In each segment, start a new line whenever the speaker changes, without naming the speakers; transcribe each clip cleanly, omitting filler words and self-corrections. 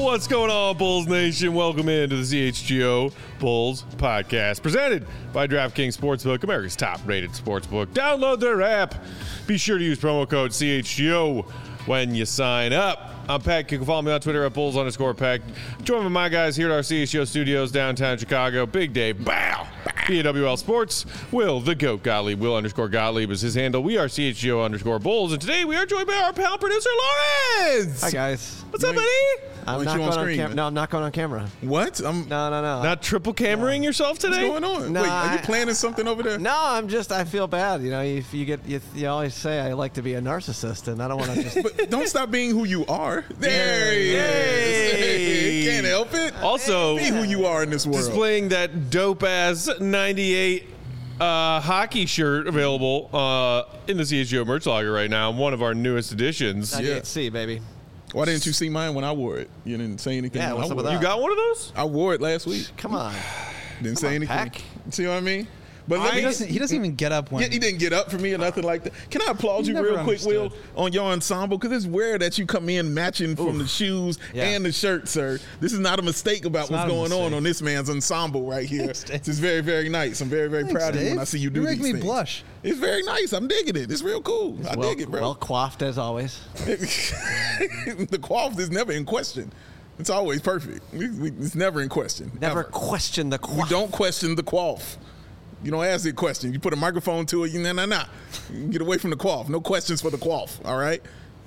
What's going on, Bulls Nation? Welcome into the CHGO Bulls podcast, presented by DraftKings Sportsbook, America's top-rated sportsbook. Download their app. Be sure to use promo code CHGO when you sign up. I'm Peck. You can follow me on Twitter at Bulls_Peck. Join with my guys here at our CHGO studios downtown Chicago. Big Dave, bow. BWL Sports. Will, the GOAT Gottlieb. Will_Gottlieb is his handle. We are CHGO_Bulls. And today we are joined by our pal producer, Lawrence.
Hi, guys.
What's up, buddy?
I'm not going on camera. No, I'm not going on camera.
What?
No.
Not triple cameraing yourself today?
What's going on?
No,
Wait, are you planning something over there?
No, I feel bad. You know, if you always say I like to be a narcissist, and I don't want to just.
But don't stop being who you are. There he is. Can't help it.
Also,
be who you are in this world.
Displaying that dope-ass 98 hockey shirt available in the CHGO merch locker right now. One of our newest additions.
98C, baby.
Why didn't you see mine when I wore it? You didn't say anything.
Yeah,
when
what's
I
up with
wore
that?
it.
You got one of those?
I wore it last week.
Come on.
Didn't say anything.
Peck.
See what I mean? But
He doesn't even get up when.
Yeah, he didn't get up for me or nothing like that. Can I applaud you
Never
real quick, Will,
understood.
on your ensemble? Because it's rare that you come in matching from the shoes and the shirt, sir. This is not a mistake about
It's
what's
not a
going
mistake.
on this man's ensemble right here.
Thanks, Dave.
This is very, very nice. I'm very, very
Thanks,
proud of you when
Dave.
I see you do
You
these
make me
things.
blush.
It's very nice. I'm digging it. It's real cool. I dig it, bro.
Well coiffed as always.
The quaff is never in question. It's always perfect. It's never in question.
Never
Ever.
question the
We
quaff.
don't question the quaff. You don't ask the question. You put a microphone to it. Nah. Get away from the quaff. No questions for the quaff. All right.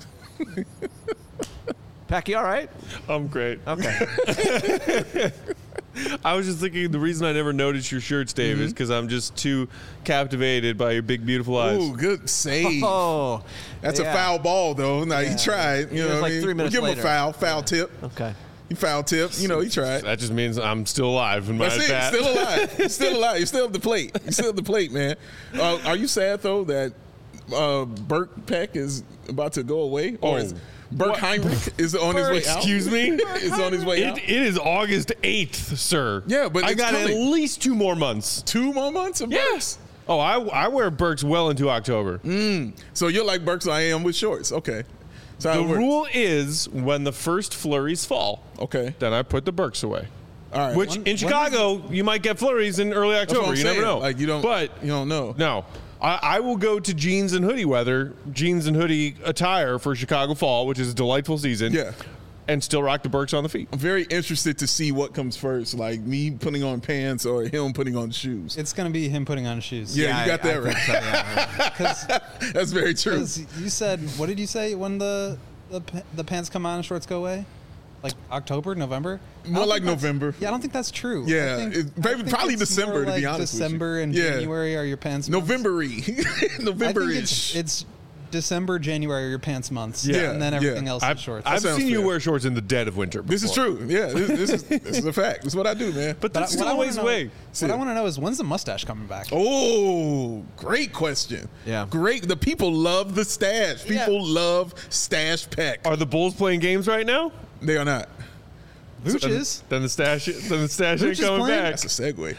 Pecky, all right?
I'm great.
Okay.
I was just thinking the reason I never noticed your shirts, Dave, is because I'm just too captivated by your big, beautiful eyes.
Ooh, good save.
Oh,
That's
yeah.
a foul ball, though. Now, he tried. You
It
know
was
what
like
I mean?
3 minutes
We'll give him
later.
a foul tip.
Okay.
He foul tip. You know, he tried.
That just means I'm still alive in my
That's it.
bat.
Still alive. You're still alive. You're still at the plate. You're still at the plate, man. Are you sad, though, that Burke Peck is about to go away? Or is Burke Heinrich is on his way out?
Excuse me?
Is on his way out?
It is August 8th, sir.
Yeah, but
I
it's
got
coming.
at least 2 more months.
2 more months of Burks?
Oh, I wear Burks well into October.
So you're like Burks, I am with shorts. Okay. So how
The
it works.
rule is when the first flurries fall,
Okay.
then I put the Burks away.
All right.
Which in Chicago, you might get flurries in early
That's what
October.
I'm
You never
saying.
know.
Like you don't know.
No. I will go to jeans and hoodie weather, jeans and hoodie attire for Chicago fall, which is a delightful season.
Yeah.
And still rock the Burks on the feet.
I'm very interested to see what comes first, like me putting on pants or him putting on shoes.
It's going to be him putting on shoes.
Yeah, you got that right.
Because
That's very true.
you said, what did you say when the pants come on and shorts go away? Like October, November?
More like
November.
November.
Yeah, I don't think that's true.
Yeah,
I think,
probably
it's
December,
more
to be
like
honest with you.
December and
Yeah.
January are your pants months.
November-y.
I think
November-ish.
it's December, January are your pants months.
Yeah,
And then everything
yeah.
else is shorts.
I've
sounds
seen you
fair.
wear shorts in the dead of winter before.
This is true. Yeah, this is a fact. This is what I do, man.
But that's
what
still
I
a
wanna
ways
know-
away.
What I want to know is when's the mustache coming back?
Oh, great question.
Yeah.
Great. The people love the stash. People love Stash Peck.
Are the Bulls playing games right now?
They are not.
Vooch is.
Then the stash ain't
Vooch is
coming
playing?
back.
That's a segue.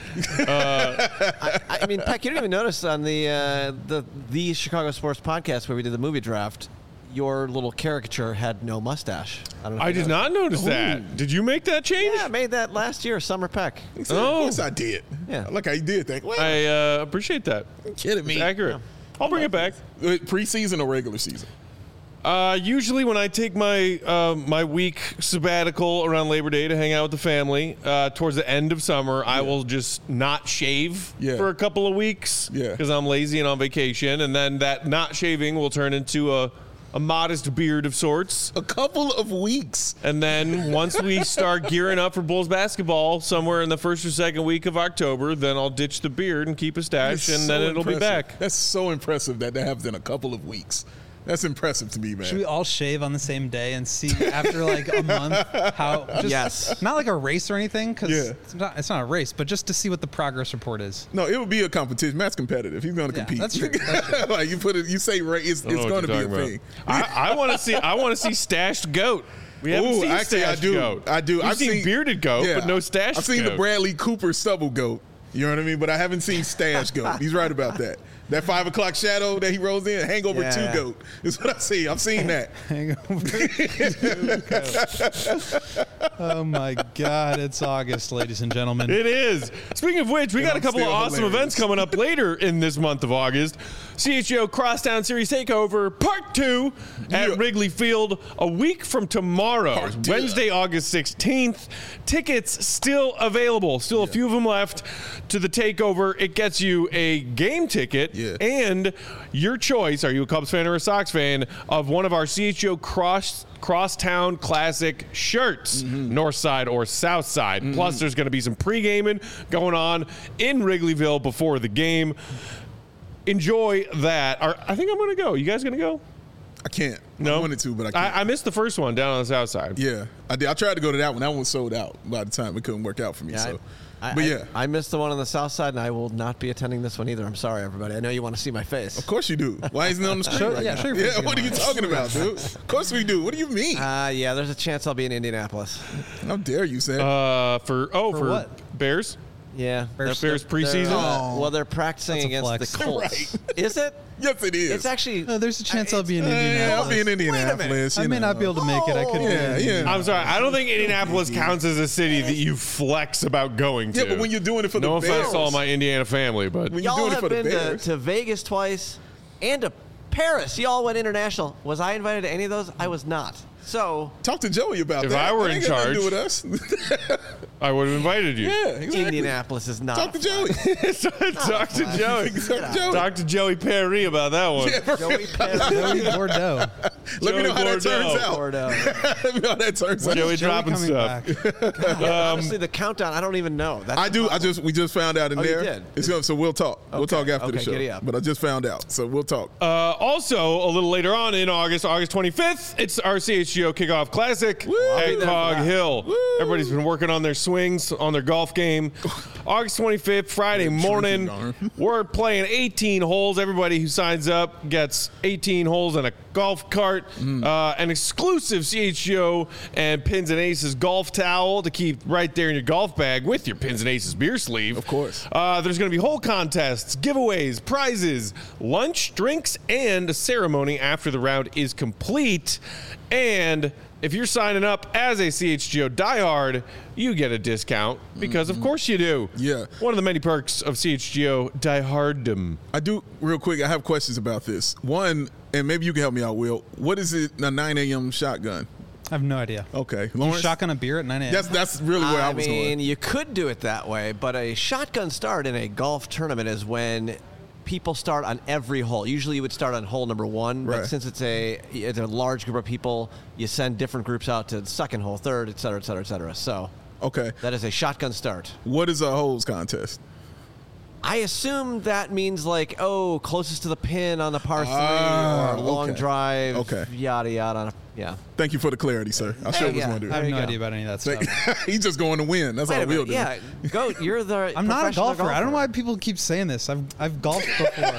I mean, Peck, you didn't even notice on the Chicago Sports podcast where we did the movie draft, your little caricature had no mustache. I don't know. if
I
you
did
noticed.
not notice that. Did you make that change?
Yeah, I made that last year, Summer Peck.
Of
Oh.
course I did.
Yeah.
Look how you did that. Well,
I appreciate that.
kidding me.
It's accurate. I'll bring it back.
Preseason or regular season?
Usually when I take my my week sabbatical around Labor Day to hang out with the family, towards the end of summer, I will just not shave for a couple of weeks because I'm lazy and on vacation. And then that not shaving will turn into a modest beard of sorts.
A couple of weeks.
And then once we start gearing up for Bulls basketball somewhere in the first or second week of October, then I'll ditch the beard and keep a stash,
That's
and then
so
it'll be
impressive.
back.
That's so impressive that happens in a couple of weeks. That's impressive to me, man.
Should we all shave on the same day and see after like a month how? Just,
Yes.
Not like a race or anything, because
Yeah.
it's not a race, but just to see what the progress report is.
No, it would be a competition. Matt's competitive. He's going to
Yeah,
compete.
that's true. That's true.
Like you say, right? It's
I don't know
going
what
to be
you're
a
talking
thing.
about. I want to see. I want to see stashed goat. We haven't
Ooh,
seen
actually, I
stashed
do.
goat.
I do.
We've seen bearded goat, but no stashed
I've seen
goat.
the Bradley Cooper stubble goat. You know what I mean? But I haven't seen Stash Goat. He's right about that. That 5 o'clock shadow that he rolls in, Hangover 2 Goat is what I see. I've seen that.
Hangover 2 Goat. Oh my God! It's August, ladies and gentlemen.
It is. Speaking of which, we got a couple of awesome
hilarious.
events coming up later in this month of August. CHGO Crosstown Series Takeover Part 2 at Wrigley Field a week from tomorrow, Wednesday, August 16th. Tickets still available. Still a few of them left to the takeover. It gets you a game ticket and your choice, are you a Cubs fan or a Sox fan, of one of our CHGO Crosstown Classic shirts, north side or south side. Plus, there's going to be some pre-gaming going on in Wrigleyville before the game. Enjoy that. I think I'm going to go. You guys going to go?
I can't.
No?
I wanted to, but I can't.
I missed the first one down on the south side.
Yeah, I did. I tried to go to that one. That one was sold out by the time. It couldn't work out for me.
I missed the one on the south side, and I will not be attending this one either. I'm sorry, everybody. I know you want to see my face.
Of course you do. Why isn't it on the screen? Right now?
Yeah,
what are you talking about, dude? Of course we do. What do you mean?
Yeah, there's a chance I'll be in Indianapolis.
How dare you, Sam?
For
what?
Bears?
Yeah.
Bears preseason?
Well, they're practicing against the Colts.
Right.
Is it?
Yes, it is.
It's actually.
No, there's a chance I'll be in
Yeah,
Indianapolis.
I'll be in Indianapolis.
I may not be able to make it. I could be.
Yeah.
I'm sorry. I don't think Indianapolis counts as a city that you flex about going to.
Yeah, but when you're doing it for the
no
Bears.
offense to all my Indiana family, but
When you're
Y'all
doing it
have
for the
been
Bears.
to Vegas twice and to Paris. Y'all went international. Was I invited to any of those? I was not. So
Talk to Joey about
If
that.
I were
That
in
ain't got nothing to do
charge-
with us.
I would have invited you.
Yeah, exactly.
Indianapolis is not.
Talk to Joey.
Talk to Joey.
Talk to Joey.
Talk to Joey Perry about that one.
Joey Perry.
Joey Bordeaux.
Let me know how that turns out.
Bordeaux.
Let me know how that turns out.
Joey dropping
coming
stuff.
back?
Honestly, the countdown, I don't even know. That's
I do. We just found out in
you
there.
did?
It's so we'll talk. We'll talk after the
Okay,
show.
giddy up.
But I just found out, so we'll talk.
Also, a little later on in August 25th, it's our CHGO Kickoff Classic at Cog Hill. Everybody's been working on their swings, on their golf game. August 25th, Friday morning, we're playing 18 holes. Everybody who signs up gets 18 holes and a golf cart, an exclusive CHGO and Pins and Aces golf towel to keep right there in your golf bag with your Pins and Aces beer sleeve.
Of course.
There's going to be hole contests, giveaways, prizes, lunch, drinks, and a ceremony after the round is complete. And if you're signing up as a CHGO diehard, you get a discount because, of course, you do.
Yeah.
One of the many perks of CHGO dieharddom.
I do real quick. I have questions about this. One, and maybe you can help me out, Will. What is it? A 9 a.m. shotgun?
I have no idea.
Okay,
You
Lawrence.
shotgun a beer at 9 a.m.
That's really where I
I
was
mean,
going.
you could do it that way, but a shotgun start in a golf tournament is when people start on every hole. Usually you would start on hole number one, but
Right.
since it's a large group of people, you send different groups out to the second hole, third, et cetera, et cetera, et cetera. So
Okay,
that is a shotgun start.
what is a holes contest?
I assume that means like, closest to the pin on the par 3 or long
okay.
drive,
Okay.
yada, yada. Yeah.
Thank you for the clarity, sir. I sure was
yeah.
wondering.
I have
There you
no
go.
idea about any of that stuff.
He's just going to win. That's
Wait
all
a
Will
minute.
do.
Yeah, Goat, you're the
I'm not a
professional
golfer. I don't know why people keep saying this. I've golfed before.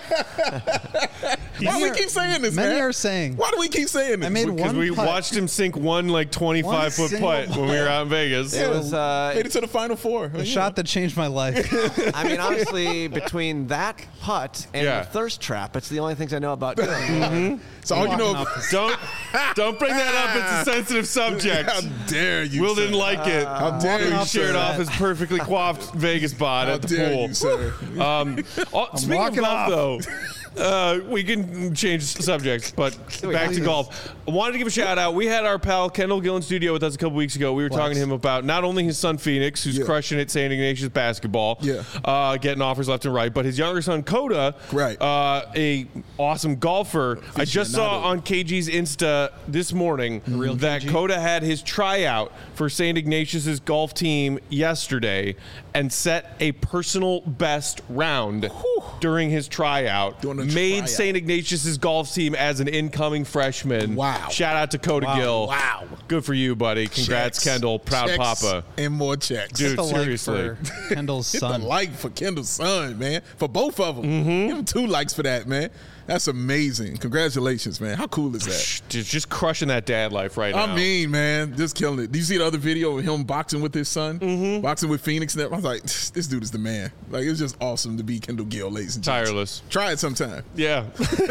Why do we keep saying this,
Many
man?
are saying.
Why do we keep saying this?
I made
Because
one
we
putt.
watched him sink one like 25-foot
single
putt when we were out in Vegas.
It was,
made it to the final four.
A shot that changed my life.
I mean, honestly, between that putt and
Yeah.
the thirst trap, it's the only things I know about doing.
So all you know.
Don't bring that up. It's a sensitive subject.
How dare you?
Will
sir.
didn't like it.
How dare you,
He shared
sir.
off his perfectly coiffed Vegas bod
How
at the
dare
pool.
you, sir?
Speaking of
walking
golf, though, we can change subjects, but back to golf. I wanted to give a shout out. We had our pal Kendall Gill in studio with us a couple weeks ago. We were talking to him about not only his son Phoenix, who's
Yeah.
crushing it St. Ignatius basketball, getting offers left and right, but his younger son Coda,
Right.
a awesome golfer. I just saw
Aficionado.
on KG's Insta this morning that Coda had his tryout for St. Ignatius's golf team yesterday and set a personal best round during his tryout.
Doing a
Made
tryout.
St. Ignatius's golf team as an incoming freshman.
Wow.
Shout out to Coda Gill.
Wow.
Good for you, buddy. Congrats,
Checks.
Kendall. Proud
Checks
papa.
and more checks.
Dude,
The like
seriously.
for Kendall's
Hit
son.
the like for Kendall's son, man. For both of them.
Mm-hmm.
Give him 2 likes for that, man. That's amazing. Congratulations, man. How cool is that?
Just crushing that dad life right now.
I mean, man, just killing it. Do you see the other video of him boxing with his son? Mm-hmm. Boxing with Phoenix? And I was like, this dude is the man. Like, it's just awesome to be Kendall Gill, ladies and gentlemen.
Tireless.
Try it sometime.
Yeah.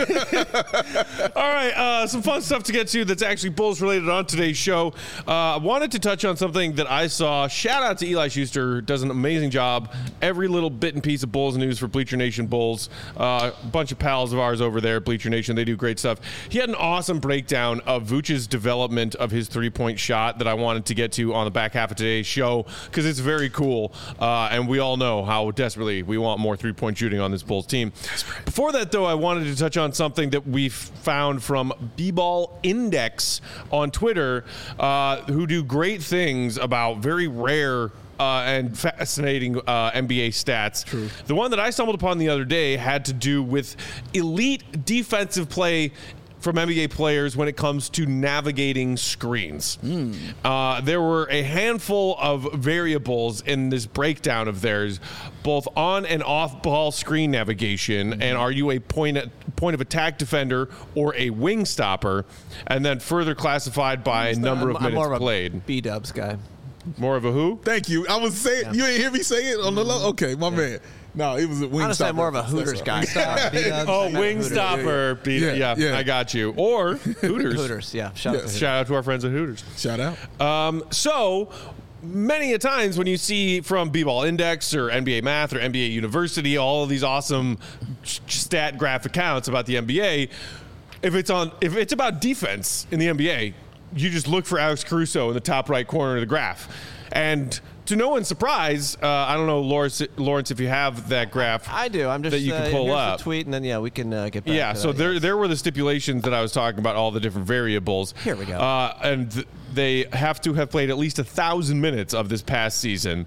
All right. Some fun stuff to get to that's actually Bulls related on today's show. I wanted to touch on something that I saw. Shout out to Eli Schuster. Does an amazing job. Every little bit and piece of Bulls news for Bleacher Nation Bulls. A bunch of pals of ours over there at Bleacher Nation. They do great stuff. He had an awesome breakdown of Vooch's development of his three-point shot that I wanted to get to on the back half of today's show because it's very cool. And we all know how desperately we want more three-point shooting on this Bulls team. Before that, though, I wanted to touch on something that we found from B-Ball Index on Twitter, who do great things about very rare and fascinating NBA stats. True. The one that I stumbled upon the other day had to do with elite defensive play from NBA players when it comes to navigating screens. There were a handful of variables in this breakdown of theirs, both on and off ball screen navigation, and are you a point of attack defender or a wing stopper, and then further classified by number of minutes
more of
played.
a B-dubs guy.
More of a who?
Thank you. I was saying, you didn't hear me say it on the low? Okay, my man. No, it was a wing
Honestly,
stopper.
I'm more of a Hooters guy.
Oh, wing stopper. Yeah, I got you. Or Hooters.
Hooters, yeah. Shout out to Hooters.
Shout out to our friends at Hooters.
Shout out.
So many a times when you see from B-Ball Index or NBA Math or NBA University, all of these awesome stat graph accounts about the NBA, if it's about defense in the NBA, you just look for Alex Caruso in the top right corner of the graph. And to no one's surprise, I don't know, Lawrence, if you have that graph.
I do. I'm just
that you can pull
here's
up.
the tweet, and then we can get back.
Yeah,
to
so
that,
there were the stipulations that I was talking about, all the different variables.
Here we go.
And they have to have played at least 1,000 minutes of this past season.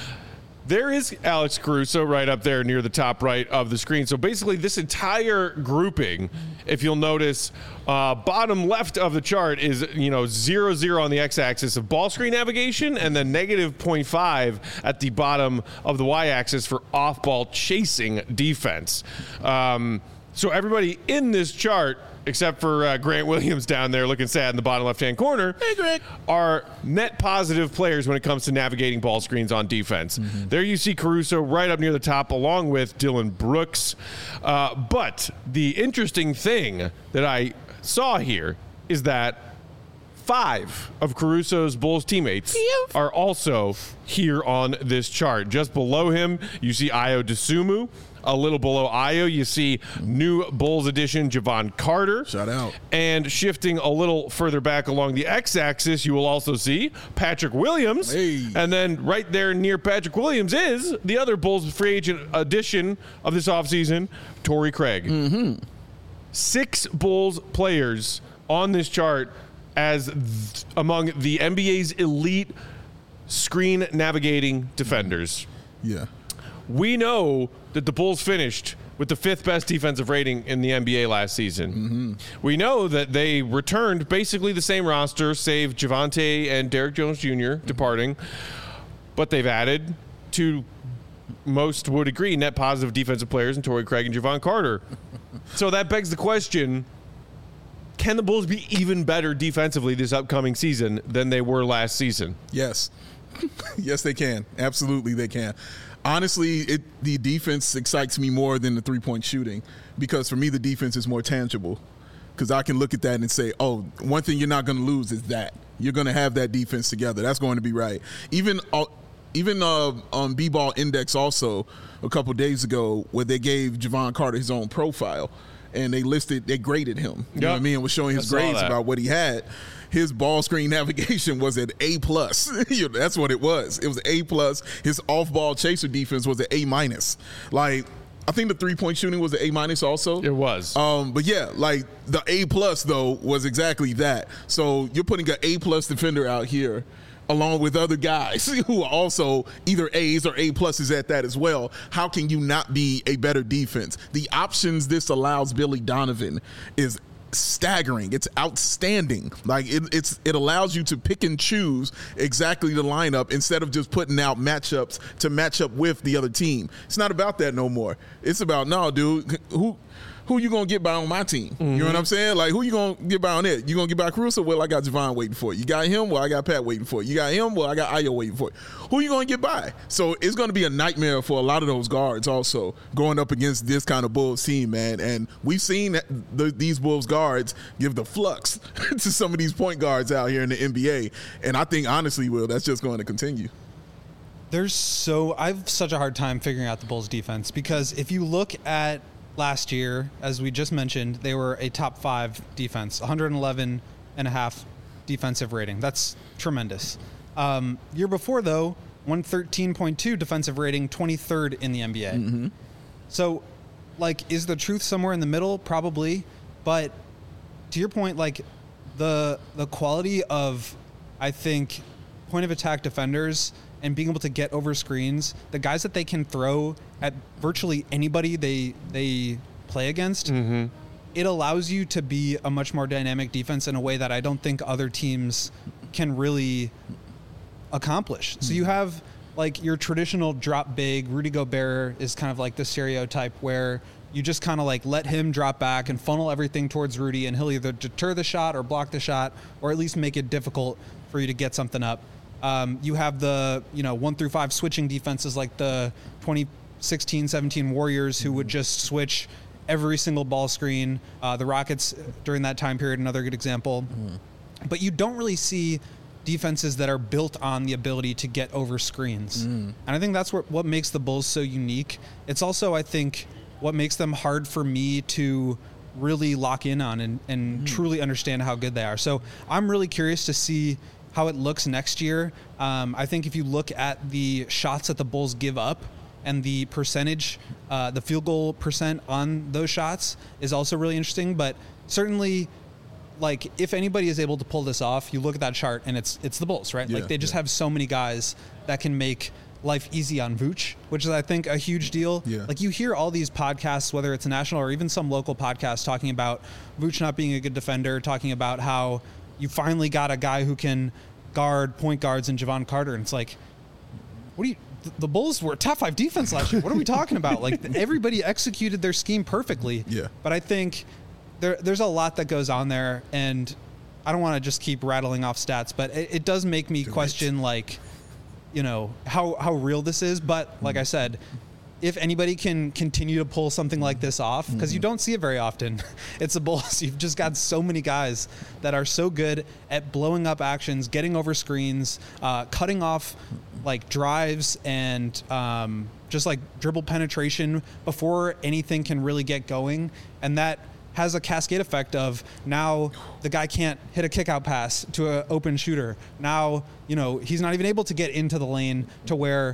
There is Alex Caruso right up there near the top right of the screen. So basically this entire grouping, if you'll notice, bottom left of the chart is 0-0 on the x-axis of ball screen navigation, and then negative 0.5 at the bottom of the y-axis for off-ball chasing defense. So everybody in this chart, except for Grant Williams down there looking sad in the bottom left-hand corner,
Hey, Greg.
are net positive players when it comes to navigating ball screens on defense. There you see Caruso right up near the top along with Dylan Brooks. But the interesting thing that I saw here is that 5 of Caruso's Bulls teammates are also here on this chart. Just below him, you see Ayo Dosunmu. A little below Ayo, you see new Bulls addition Javon Carter.
Shout out.
And shifting a little further back along the x-axis, you will also see Patrick Williams.
Hey.
And then right there near Patrick Williams is the other Bulls free agent addition of this offseason, Torrey Craig. 6 Bulls players on this chart as among the NBA's elite screen navigating defenders.
Yeah.
We know that the Bulls finished with the 5th best defensive rating in the NBA last season. We know that they returned basically the same roster, save Javonte and Derrick Jones Jr. departing, but they've added 2, most would agree, net positive defensive players in Torrey Craig and Javon Carter. So that begs the question, can the Bulls be even better defensively this upcoming season than they were last season?
Yes. Yes, they can. Absolutely, they can. Honestly, the defense excites me more than the three-point shooting because for me, the defense is more tangible because I can look at that and say, oh, one thing you're not going to lose is that. You're going to have that defense together. That's going to be right. Even on B-Ball Index also a couple days ago where they gave Javon Carter his own profile and they graded him. You know what I mean? It was showing his grades about what he had. His ball screen navigation was at A+. That's what it was. It was A+. His off-ball chaser defense was at A-. Like, I think the three-point shooting was an A- also.
It was.
But yeah, like the A+ though was exactly that. So you're putting an A+ defender out here along with other guys who are also either A's or A+ at that as well. How can you not be a better defense? The options this allows Billy Donovan is staggering. It's outstanding. Like it allows you to pick and choose exactly the lineup instead of just putting out matchups to match up with the other team. It's not about that no more. It's about, no, dude, who you gonna get by on my team? You know what I'm saying? Like, who you gonna get by on it? You gonna get by Caruso? Well, I got Javon waiting for you. You got him? Well, I got Pat waiting for you. You got him? Well, I got Ayo waiting for you. Who you gonna get by? So it's gonna be a nightmare for a lot of those guards also going up against this kind of Bulls team, man. And we've seen these Bulls guards give the flux to some of these point guards out here in the NBA. And I think, honestly, Will, that's just going to continue.
I have such a hard time figuring out the Bulls defense, because if you look at last year, as we just mentioned, they were a top 5 defense, 111.5 defensive rating. That's tremendous. Year before, though, 113.2 defensive rating, 23rd in the NBA. So, like, is the truth somewhere in the middle? Probably. But to your point, like, the quality of, I think, point of attack defenders and being able to get over screens, the guys that they can throw at virtually anybody they play against, it allows you to be a much more dynamic defense in a way that I don't think other teams can really accomplish. So you have, like, your traditional drop big. Rudy Gobert is kind of like the stereotype where you just kind of like let him drop back and funnel everything towards Rudy, and he'll either deter the shot or block the shot, or at least make it difficult for you to get something up. You have the 1 through 5 switching defenses like the 2016-17 Warriors, who would just switch every single ball screen. The Rockets during that time period, another good example. But you don't really see defenses that are built on the ability to get over screens. And I think that's what makes the Bulls so unique. It's also, I think, what makes them hard for me to really lock in on and truly understand how good they are. So I'm really curious to see how it looks next year. I think if you look at the shots that the Bulls give up and the percentage, the field goal percent on those shots is also really interesting. But certainly, like, if anybody is able to pull this off, you look at that chart and it's the Bulls, right? Like, they just have so many guys that can make life easy on Vooch, which is, I think, a huge deal. Like, you hear all these podcasts, whether it's a national or even some local podcasts, talking about Vooch not being a good defender, talking about how you finally got a guy who can guard point guards in Javon Carter. And it's like, the Bulls were top 5 defense last year. What are we talking about? Like, everybody executed their scheme perfectly. But I think there's a lot that goes on there, and I don't want to just keep rattling off stats, but it does make me question, like, how real this is. But like I said, if anybody can continue to pull something like this off, because you don't see it very often, it's the Bulls. You've just got so many guys that are so good at blowing up actions, getting over screens, cutting off, like, drives and just, like, dribble penetration before anything can really get going. And that has a cascade effect of, now the guy can't hit a kick-out pass to an open shooter. Now, he's not even able to get into the lane to where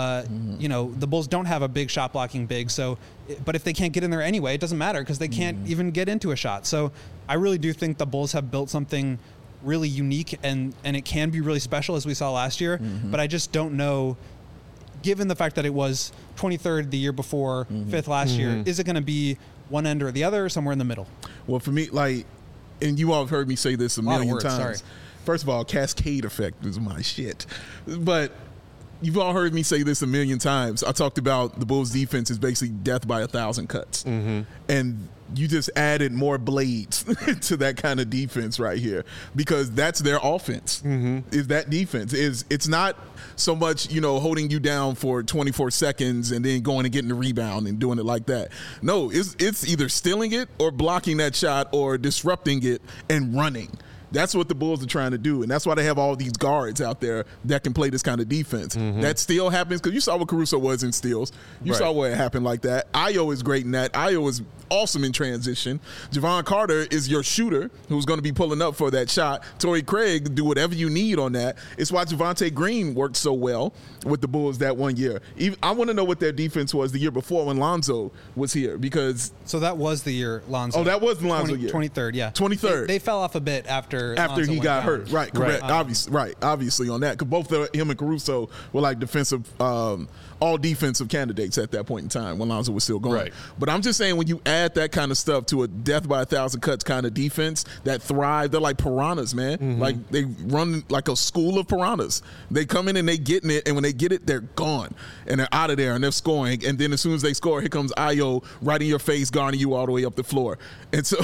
the Bulls don't have a big shot blocking big. So, but if they can't get in there anyway, it doesn't matter, because they can't even get into a shot. So I really do think the Bulls have built something really unique, and it can be really special, as we saw last year. But I just don't know, given the fact that it was 23rd the year before, 5th last year, is it going to be one end or the other, or somewhere in the middle?
Well, for me, like, and you all have heard me say this a million times.
Sorry.
First of all, cascade effect is my shit. But you've all heard me say this a million times. I talked about the Bulls' defense is basically death by 1,000 cuts. And you just added more blades to that kind of defense right here, because that's their offense. Is that defense. It's not so much, holding you down for 24 seconds and then going and getting the rebound and doing it like that. No, it's either stealing it or blocking that shot or disrupting it and running. That's what the Bulls are trying to do, and that's why they have all these guards out there that can play this kind of defense. That steal happens because you saw what Caruso was in steals. You saw what happened like that. Ayo is great in that. Ayo is awesome in transition. Javon Carter is your shooter who's going to be pulling up for that shot. Torrey Craig, do whatever you need on that. It's why Javonte Green worked so well with the Bulls that one year. I want to know what their defense was the year before when Lonzo was here, because...
So that was the year Lonzo...
Oh, that was the Lonzo year.
23rd, yeah.
23rd.
They fell off a bit after
he got hurt. Right, correct.
Obviously
on that, because both him and Caruso were like defensive all defensive candidates at that point in time when Lonzo was still going.
Right.
But I'm just saying, when you add that kind of stuff to a death by 1,000 cuts kind of defense that thrive, they're like piranhas, man.
Mm-hmm.
Like, they run like a school of piranhas. They come in and they getting it, and when they get it, they're gone and they're out of there and they're scoring. And then as soon as they score, here comes Ayo right in your face, guarding you all the way up the floor. And so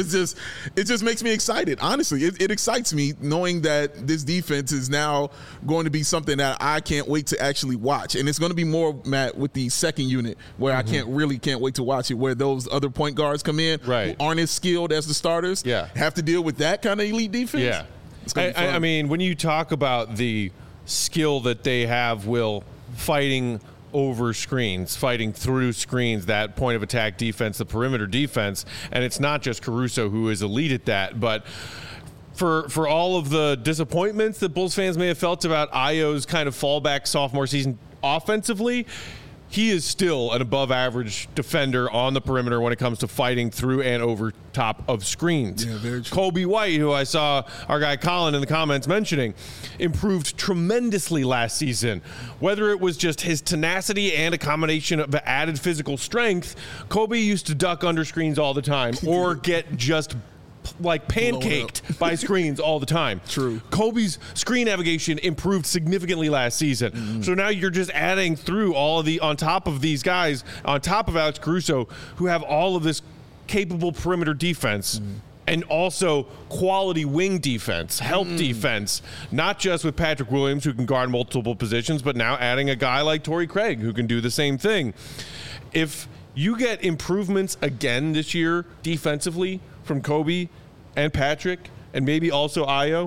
it just makes me excited. Honestly, it excites me knowing that this defense is now going to be something that I can't wait to actually watch. And it's going to be more, Matt, with the second unit where I can't wait to watch it, where those other point guards come in
Right.
who aren't as skilled as the starters, have to deal with that kind of elite defense.
Yeah.
It's gonna be fun.
I mean, when you talk about the skill that they have, Will, fighting over screens, fighting through screens, that point of attack defense, the perimeter defense, and it's not just Caruso who is elite at that, but for all of the disappointments that Bulls fans may have felt about Ayo's kind of fallback sophomore season offensively, he is still an above-average defender on the perimeter when it comes to fighting through and over top of screens.
Yeah, very true.
Kobe White, who I saw our guy Colin in the comments mentioning, improved tremendously last season. Whether it was just his tenacity and a combination of added physical strength, Kobe used to duck under screens all the time or get just like pancaked by screens all the time.
True.
Kobe's screen navigation improved significantly last season.
Mm-hmm.
So now you're just adding through all of the, on top of these guys, on top of Alex Caruso, who have all of this capable perimeter defense. And also quality wing defense, help defense, not just with Patrick Williams, who can guard multiple positions, but now adding a guy like Torrey Craig, who can do the same thing. If you get improvements again this year defensively from Kobe and Patrick, and maybe also Ayo,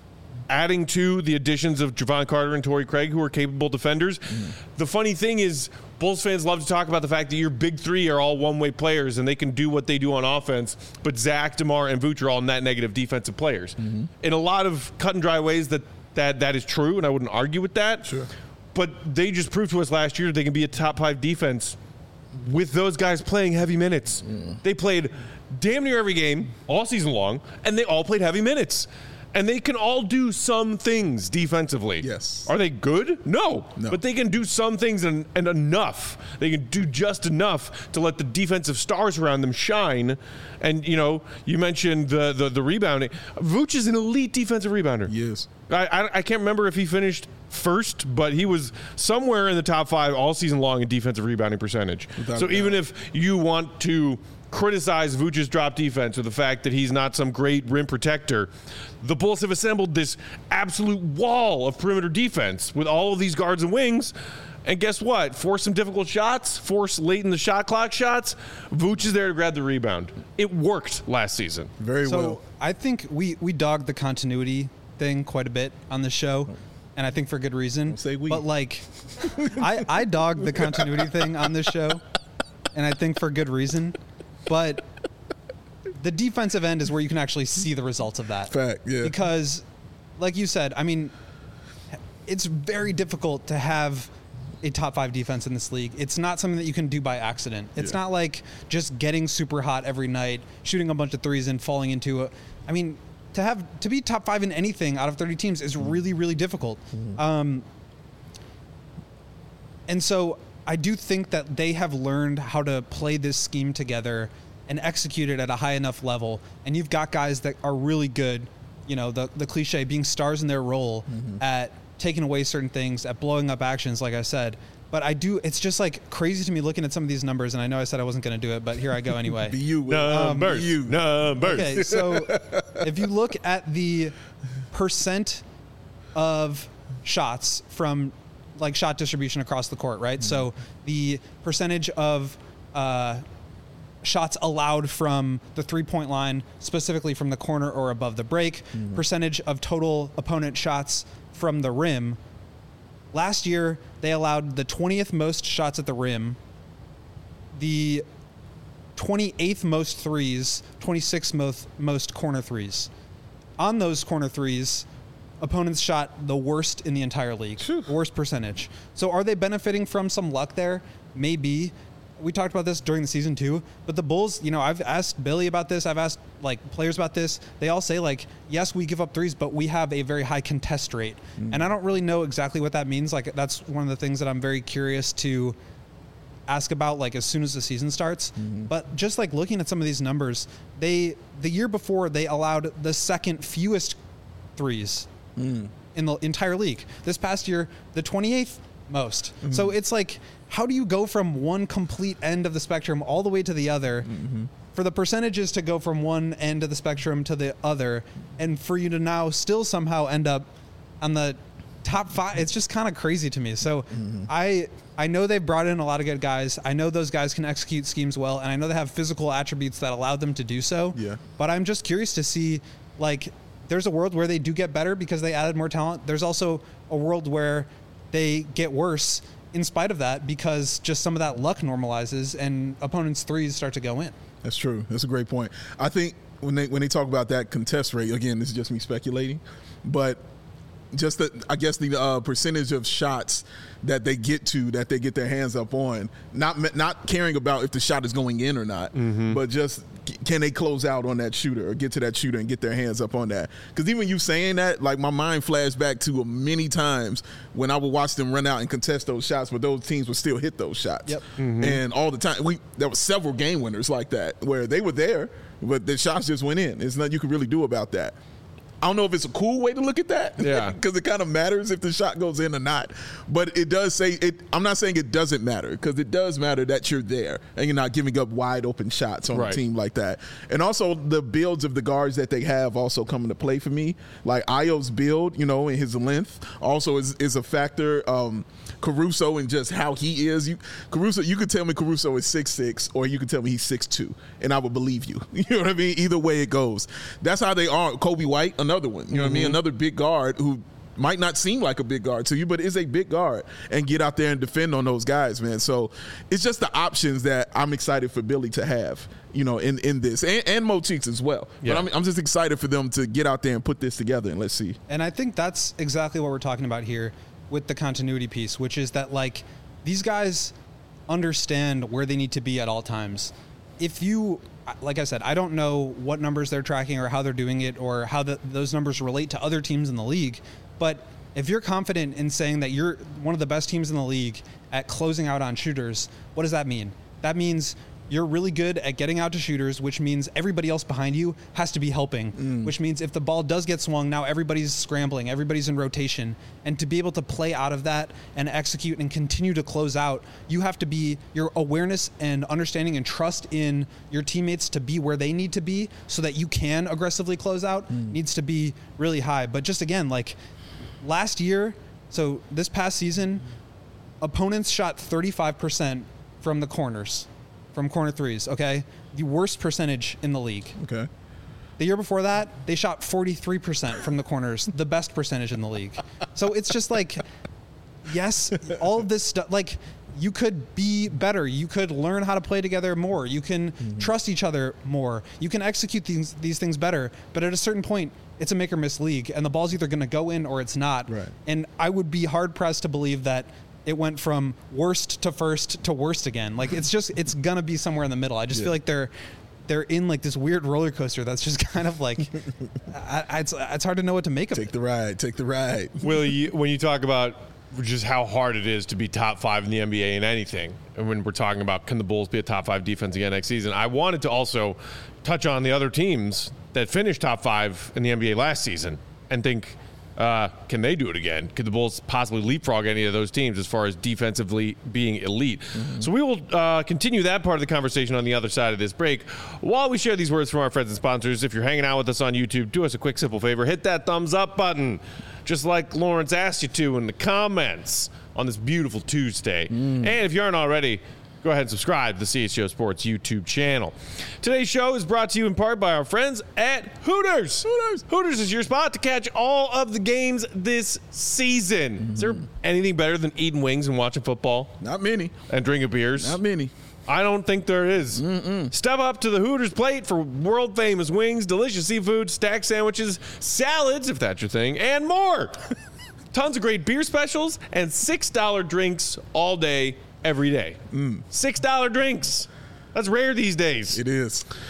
adding to the additions of Javon Carter and Torrey Craig, who are capable defenders. The funny thing is, Bulls fans love to talk about the fact that your big three are all one-way players and they can do what they do on offense, but Zach, DeMar, and Vooch are all net negative defensive players. In a lot of cut and dry ways that is true, and I wouldn't argue with that.
Sure.
But they just proved to us last year that they can be a top 5 defense with those guys playing heavy minutes. They played damn near every game all season long, and they all played heavy minutes. And they can all do some things defensively.
Yes.
Are they good? No.
No.
But they can do some things and enough. They can do just enough to let the defensive stars around them shine. And, you know, you mentioned the rebounding. Vooch is an elite defensive rebounder.
Yes.
I can't remember if he finished first, but he was somewhere in the top 5 all season long in defensive rebounding percentage. So even if you want to criticize Vooch's drop defense or the fact that he's not some great rim protector, the Bulls have assembled this absolute wall of perimeter defense with all of these guards and wings. And guess what? Force some difficult shots, force late in the shot clock shots. Vooch is there to grab the rebound. It worked last season.
Very
So
well.
I think we dogged the continuity thing quite a bit on this show, and I think for good reason.
Don't say we.
But like, I dogged the continuity thing on this show, and I think for good reason. But the defensive end is where you can actually see the results of that.
Fact, yeah.
Because, like you said, I mean, it's very difficult to have a top 5 defense in this league. It's not something that you can do by accident. It's not like just getting super hot every night, shooting a bunch of threes and falling into it. I mean, to be top 5 in anything out of 30 teams is really, really difficult. And so I do think that they have learned how to play this scheme together and execute it at a high enough level. And you've got guys that are really good, you know, the cliche, being stars in their role at taking away certain things, at blowing up actions, like I said. But it's just like crazy to me looking at some of these numbers, and I know I said I wasn't going to do it, but here I go anyway.
Be you, Will.
Numbers. Numbers.
Okay, so if you look at the percent of shots from like shot distribution across the court, right? So the percentage of shots allowed from the 3-point line, specifically from the corner or above the break, percentage of total opponent shots from the rim. Last year, they allowed the 20th most shots at the rim, the 28th most threes, 26th most corner threes. On those corner threes, opponents shot the worst in the entire league, worst percentage. So are they benefiting from some luck there? Maybe. We talked about this during the season too, but the Bulls, you know, I've asked Billy about this. I've asked like players about this, they all say like, yes, we give up threes, but we have a very high contest rate. And I don't really know exactly what that means. Like that's one of the things that I'm very curious to ask about, like as soon as the season starts. But just like looking at some of these numbers, the year before they allowed the second fewest threes in the entire league. This past year, the 28th most. So it's like, how do you go from one complete end of the spectrum all the way to the other? For the percentages to go from one end of the spectrum to the other, and for you to now still somehow end up on the top 5, it's just kind of crazy to me. So I know they've brought in a lot of good guys. I know those guys can execute schemes well, and I know they have physical attributes that allow them to do so.
Yeah.
But I'm just curious to see, like, there's a world where they do get better because they added more talent. There's also a world where they get worse in spite of that because just some of that luck normalizes and opponents' threes start to go in.
That's true. That's a great point. I think when they talk about that contest rate, again, this is just me speculating, but just the percentage of shots that they get their hands up on, not caring about if the shot is going in or not, but just can they close out on that shooter or get to that shooter and get their hands up on that? Because even you saying that, like my mind flashed back to many times when I would watch them run out and contest those shots, but those teams would still hit those shots.
Yep.
And all the time, there were several game winners like that where they were there, but the shots just went in. There's nothing you can really do about that. I don't know if it's a cool way to look at that, because it kind of matters if the shot goes in or not. But it does say it. I'm not saying it doesn't matter, because it does matter that you're there and you're not giving up wide open shots on a team like that. And also the builds of the guards that they have also come into play for me. Like Ayo's build, and his length also is a factor. Caruso and just how he is. You could tell me Caruso is 6'6", or you could tell me he's 6'2", and I would believe you. You know what I mean? Either way it goes. That's how they are. Kobe White, another one. You know what I mean? Another big guard who might not seem like a big guard to you, but is a big guard, and get out there and defend on those guys, man. So it's just the options that I'm excited for Billy to have, in this, and Mo Cheeks as well. Yeah. But I'm just excited for them to get out there and put this together, and let's see.
And I think that's exactly what we're talking about here with the continuity piece, which is that, like, these guys understand where they need to be at all times. If you, like I said, I don't know what numbers they're tracking or how they're doing it or how those numbers relate to other teams in the league, but if you're confident in saying that you're one of the best teams in the league at closing out on shooters, what does that mean? That means you're really good at getting out to shooters, which means everybody else behind you has to be helping, which means if the ball does get swung, now everybody's scrambling, everybody's in rotation. And to be able to play out of that and execute and continue to close out, you have to be, your awareness and understanding and trust in your teammates to be where they need to be so that you can aggressively close out needs to be really high. But just again, like last year, so this past season, opponents shot 35% from the corners. From corner threes, okay? The worst percentage in the league.
Okay.
The year before that, they shot 43% from the corners, the best percentage in the league. So it's just like, yes, all of this stuff, like, you could be better. You could learn how to play together more. You can trust each other more. You can execute these things better. But at a certain point, it's a make or miss league, and the ball's either going to go in or it's not.
Right.
And I would be hard-pressed to believe that it went from worst to first to worst again. Like, it's gonna be somewhere in the middle. I just feel like they're in like this weird roller coaster that's just kind of like, it's hard to know what to make of it.
Take the ride.
Willie, when you talk about just how hard it is to be top 5 in the NBA in anything, and when we're talking about can the Bulls be a top 5 defense again next season, I wanted to also touch on the other teams that finished top 5 in the NBA last season and think, can they do it again? Could the Bulls possibly leapfrog any of those teams as far as defensively being elite? So we will continue that part of the conversation on the other side of this break. While we share these words from our friends and sponsors, if you're hanging out with us on YouTube, do us a quick, simple favor. Hit that thumbs up button, just like Lawrence asked you to in the comments on this beautiful Tuesday. And if you aren't already, go ahead and subscribe to the CHGO Sports YouTube channel. Today's show is brought to you in part by our friends at Hooters. Hooters is your spot to catch all of the games this season. Is there anything better than eating wings and watching football?
Not many.
And drinking beers?
Not many.
I don't think there is. Step up to the Hooters plate for world-famous wings, delicious seafood, stacked sandwiches, salads, if that's your thing, and more. Tons of great beer specials and $6 drinks all day, every day. $6 drinks. That's rare these days.
It is.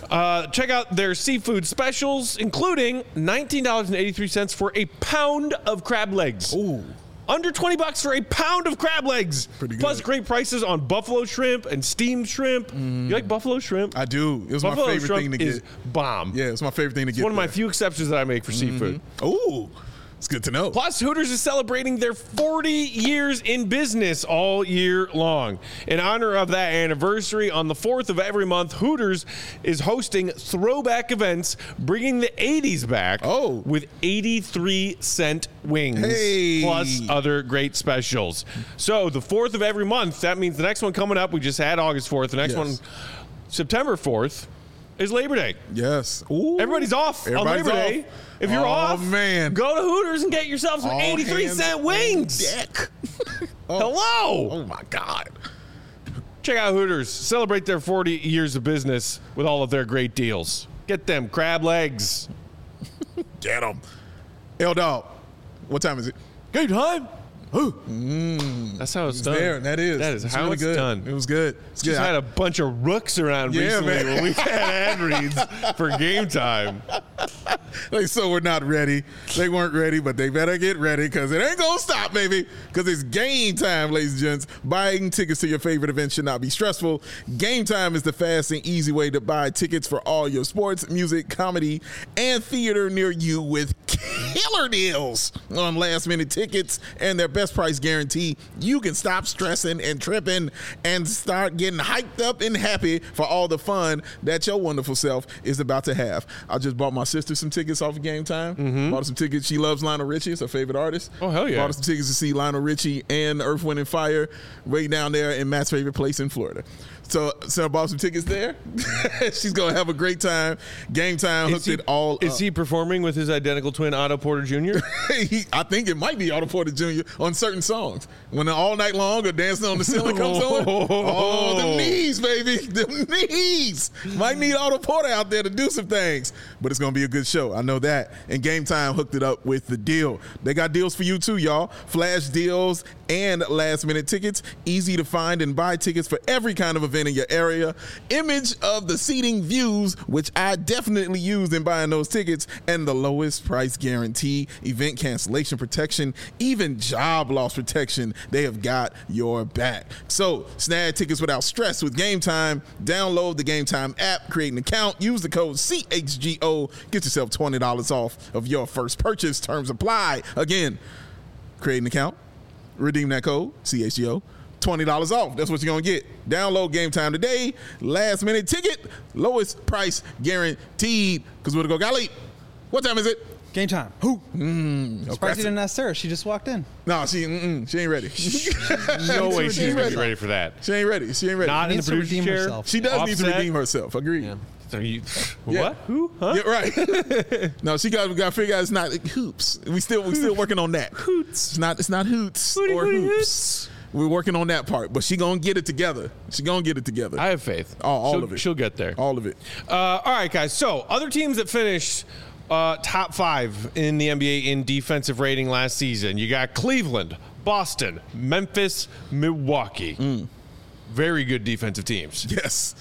Check out their seafood specials, including $19.83 for a pound of crab legs.
Ooh.
Under $20 for a pound of crab legs.
Pretty good.
Plus great prices on buffalo shrimp and steamed shrimp. You like buffalo shrimp?
I do. It was
Buffalo
my favorite
shrimp
thing to
is
get.
bomb.
Yeah, it's my favorite thing to get.
One of my
there.
few exceptions that I make for seafood.
Ooh, it's good to know.
Plus, Hooters is celebrating their 40 years in business all year long. In honor of that anniversary, on the 4th of every month, Hooters is hosting throwback events, bringing the 80s back with 83-cent wings, plus other great specials. So the 4th of every month, that means the next one coming up, we just had August 4th. The next one, September 4th, is Labor Day.
Yes.
Ooh. Everybody's off on Labor Day. If you're off,
man,
go to Hooters and get yourself some 83-cent wings. Hello.
Oh, my God.
Check out Hooters. Celebrate their 40 years of business with all of their great deals. Get them crab legs.
Get them. L-Dog, what time is it?
Game time. That's how it's done.
There, that is
how
really
it's
good.
done.
It was good. It's good.
Just had a bunch of rooks around recently
man.
when we had ad reads for Game Time.
So we're not ready. They weren't ready, but they better get ready because it ain't going to stop, baby. Because it's game time, ladies and gents. Buying tickets to your favorite event should not be stressful. Game Time is the fast and easy way to buy tickets for all your sports, music, comedy, and theater near you with killer deals on last-minute tickets and their best price guarantee. You can stop stressing and tripping and start getting hyped up and happy for all the fun that your wonderful self is about to have. I just bought my sister some tickets off of Game Time. Bought her some tickets. She loves Lionel Richie. It's her favorite artist.
Oh, hell yeah.
Bought her some tickets to see Lionel Richie and Earth, Wind, and Fire way down there in Matt's favorite place in Florida. So I bought some tickets there. She's going to have a great time. Game Time hooked it all up.
Is he performing with his identical twin, Otto Porter Jr.?
I think it might be Otto Porter Jr. on certain songs. When the All Night Long or Dancing on the Ceiling comes on. Oh, the knees, baby. The knees. Might need Otto Porter out there to do some things. But it's going to be a good show. I know that. And Game Time hooked it up with the deal. They got deals for you too, y'all. Flash deals and last-minute tickets. Easy to find and buy tickets for every kind of event in your area. Image of the seating views, which I definitely used in buying those tickets, and the lowest price guarantee, event cancellation protection, even job loss protection. They have got your back. So snag tickets without stress with Game Time. Download the Game Time app, create an account, use the code CHGO, get yourself $20 off of your first purchase. Terms apply. Again, create an account, redeem that code CHGO, $20 off. That's what you're going to get. Download Game Time today. Last minute ticket. Lowest price guaranteed. Because we're going to go Golly. What time is it?
Game time.
Who?
Surprised you didn't ask Sarah. She just walked in.
No, she ain't ready.
No way she's going to be ready for that.
She ain't ready. She ain't ready.
Not in the
Needs to
producer's
redeem
chair.
herself.
She does need to
Offset.
redeem herself. Agreed.
Yeah.
Are you,
Yeah.
what? Who? Huh?
Yeah, right. No, we got to figure out it's not hoops. We still working on that.
Hoots.
It's not hoots
Hooty,
or
hooty,
hoops. We're working on that part, but she gonna get it together.
I have faith.
All of it.
She'll get there.
All of it.
All right, guys. So, other teams that finished top 5 in the NBA in defensive rating last season. You got Cleveland, Boston, Memphis, Milwaukee. Very good defensive teams.
Yes.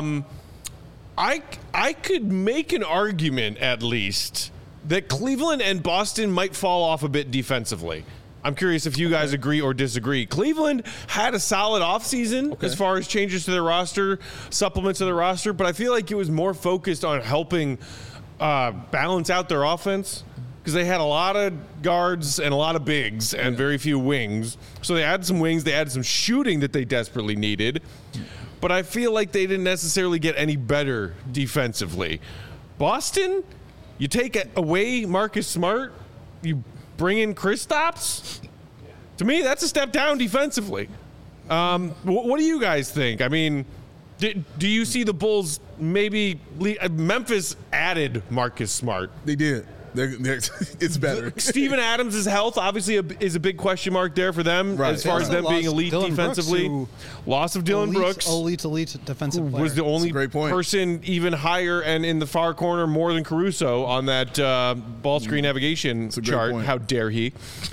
I could make an argument, at least, that Cleveland and Boston might fall off a bit defensively. I'm curious if you guys agree or disagree. Cleveland had a solid offseason as far as changes to their roster, supplements to their roster, but I feel like it was more focused on helping balance out their offense because they had a lot of guards and a lot of bigs and very few wings. So they added some wings. They added some shooting that they desperately needed. But I feel like they didn't necessarily get any better defensively. Boston, you take away Marcus Smart, you bring in Kristaps. To me, that's a step down defensively. What do you guys think? I mean, do you see the Bulls maybe Memphis added Marcus Smart?
They did. It's better.
Steven Adams' health obviously is a big question mark there for them as far as them being elite defensively. Loss of Dylan Brooks.
Elite defensive player.
Was the only person even higher and in the far corner more than Caruso on that ball screen navigation chart. How dare he?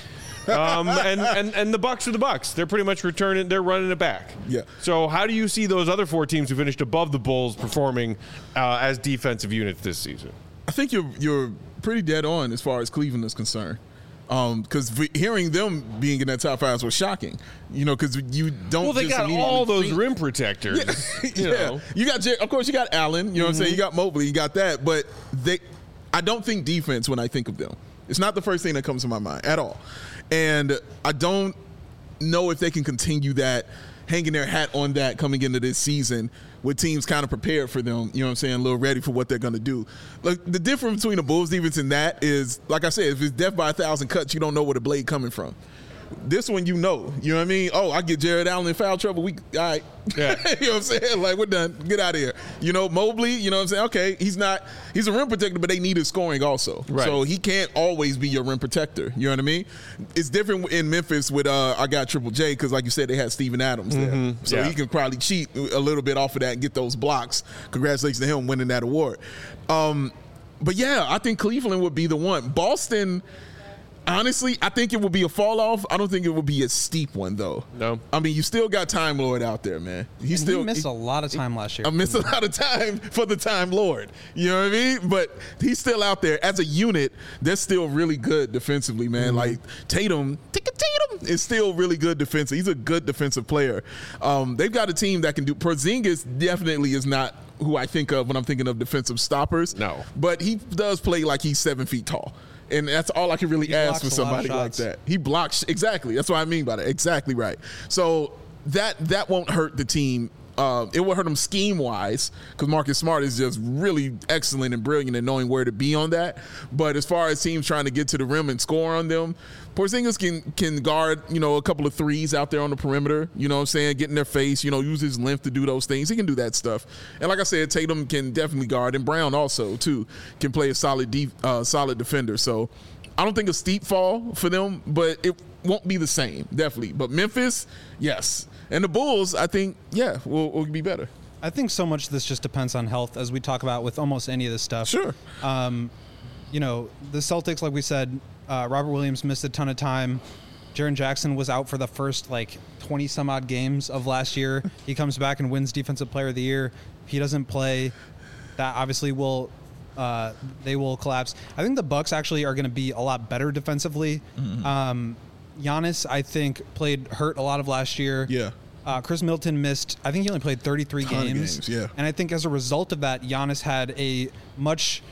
And the Bucks are the Bucks. They're pretty much returning. They're running it back.
Yeah.
So how do you see those other 4 teams who finished above the Bulls performing as defensive units this season?
I think you're pretty dead on as far as Cleveland is concerned. Because hearing them being in that top 5 was shocking, because you don't.
Well, they
just
got all those rim protectors.
Yeah.
You know.
You got, of course, you got Allen. You know what I'm saying? You got Mobley. You got that. But I don't think defense when I think of them. It's not the first thing that comes to my mind at all. And I don't know if they can continue that, hanging their hat on that coming into this season with teams kind of prepared for them, you know what I'm saying, a little ready for what they're going to do. Like, the difference between the Bulls defense and that is, like I said, if it's death by 1,000 cuts, you don't know where the blade coming from. This one, you know what I mean? Oh, I get Jared Allen in foul trouble. All right.
Yeah.
You know what I'm saying? Like, we're done. Get out of here. Mobley, you know what I'm saying? Okay, he's a rim protector, but they need his scoring also.
Right.
So he can't always be your rim protector. You know what I mean? It's different in Memphis with, I got Triple J, because like you said, they had Steven Adams there. So he can probably cheat a little bit off of that and get those blocks. Congratulations to him winning that award. But yeah, I think Cleveland would be the one. Boston, honestly, I think it would be a fall off. I don't think it would be a steep one, though.
No.
I mean, you still got Time Lord out there, man. He
missed a lot of time last year.
I missed a lot of time for the Time Lord. You know what I mean? But he's still out there. As a unit, they're still really good defensively, man. Like, Tatum is still really good defensive. He's a good defensive player. They've got a team that can do. Porzingis definitely is not who I think of when I'm thinking of defensive stoppers.
No.
But he does play like he's 7 feet tall. And that's all I can really ask for somebody like that. He blocks. Exactly. That's what I mean by that. Exactly right. So that won't hurt the team. It will hurt them scheme-wise because Marcus Smart is just really excellent and brilliant in knowing where to be on that. But as far as teams trying to get to the rim and score on them, Porzingis can guard, a couple of threes out there on the perimeter, you know what I'm saying, get in their face, use his length to do those things. He can do that stuff. And like I said, Tatum can definitely guard, and Brown also, too, can play a solid defender. So I don't think a steep fall for them, but it won't be the same, definitely. But Memphis, yes. And the Bulls, I think, will be better.
I think so much of this just depends on health, as we talk about with almost any of this stuff.
Sure.
The Celtics, like we said, Robert Williams missed a ton of time. Jaren Jackson was out for the first 20-some-odd games of last year. He comes back and wins Defensive Player of the Year. If he doesn't play, that obviously they will collapse. I think the Bucks actually are going to be a lot better defensively. Giannis, I think, played hurt a lot of last year.
Yeah.
Chris Middleton missed, I think he only played 33 games.
Yeah.
And I think as a result of that, Giannis had a much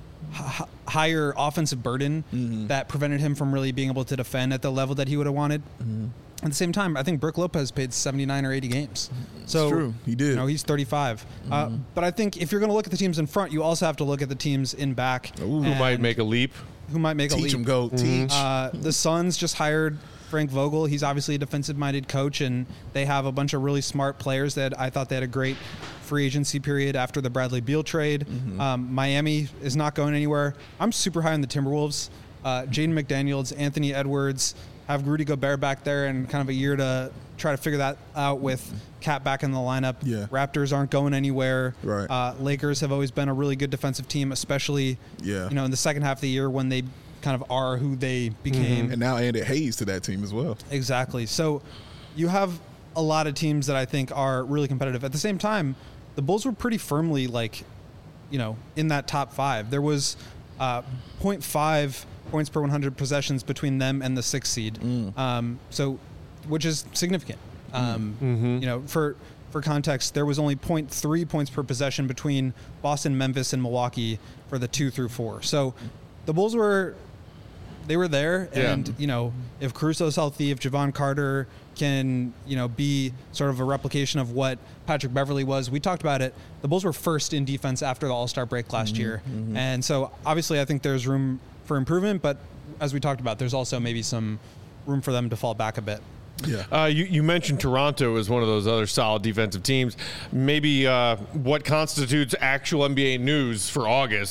higher offensive burden that prevented him from really being able to defend at the level that he would have wanted. At the same time, I think Brook Lopez played 79 or 80 games. So,
it's true. He did.
He's 35. But I think if you're going to look at the teams in front, you also have to look at the teams in back.
Who might make a leap.
Teach him, go. Teach.
The Suns just hired Frank Vogel. He's obviously a defensive-minded coach, and they have a bunch of really smart players that I thought they had a great free agency period after the Bradley Beal trade. Miami is not going anywhere. I'm super high on the Timberwolves. Jaden McDaniels, Anthony Edwards, have Rudy Gobert back there and kind of a year to try to figure that out with Cat back in the lineup.
Yeah.
Raptors aren't going anywhere.
Right.
Lakers have always been a really good defensive team, especially in the second half of the year when they kind of are who they became.
And now added Hayes to that team as well.
Exactly. So you have a lot of teams that I think are really competitive. At the same time, the Bulls were pretty firmly in that top 5. There was 0.5 points per 100 possessions between them and the 6th seed. Which is significant. For context, there was only 0.3 points per possession between Boston, Memphis, and Milwaukee for the 2 through 4. So the Bulls were there, and if Caruso's healthy, if Javon Carter can be sort of a replication of what Patrick Beverley was. We talked about it. The Bulls were first in defense after the All-Star break last year, and so obviously I think there's room for improvement. But as we talked about, there's also maybe some room for them to fall back a bit.
Yeah.
You mentioned Toronto as one of those other solid defensive teams. Maybe what constitutes actual NBA news for August.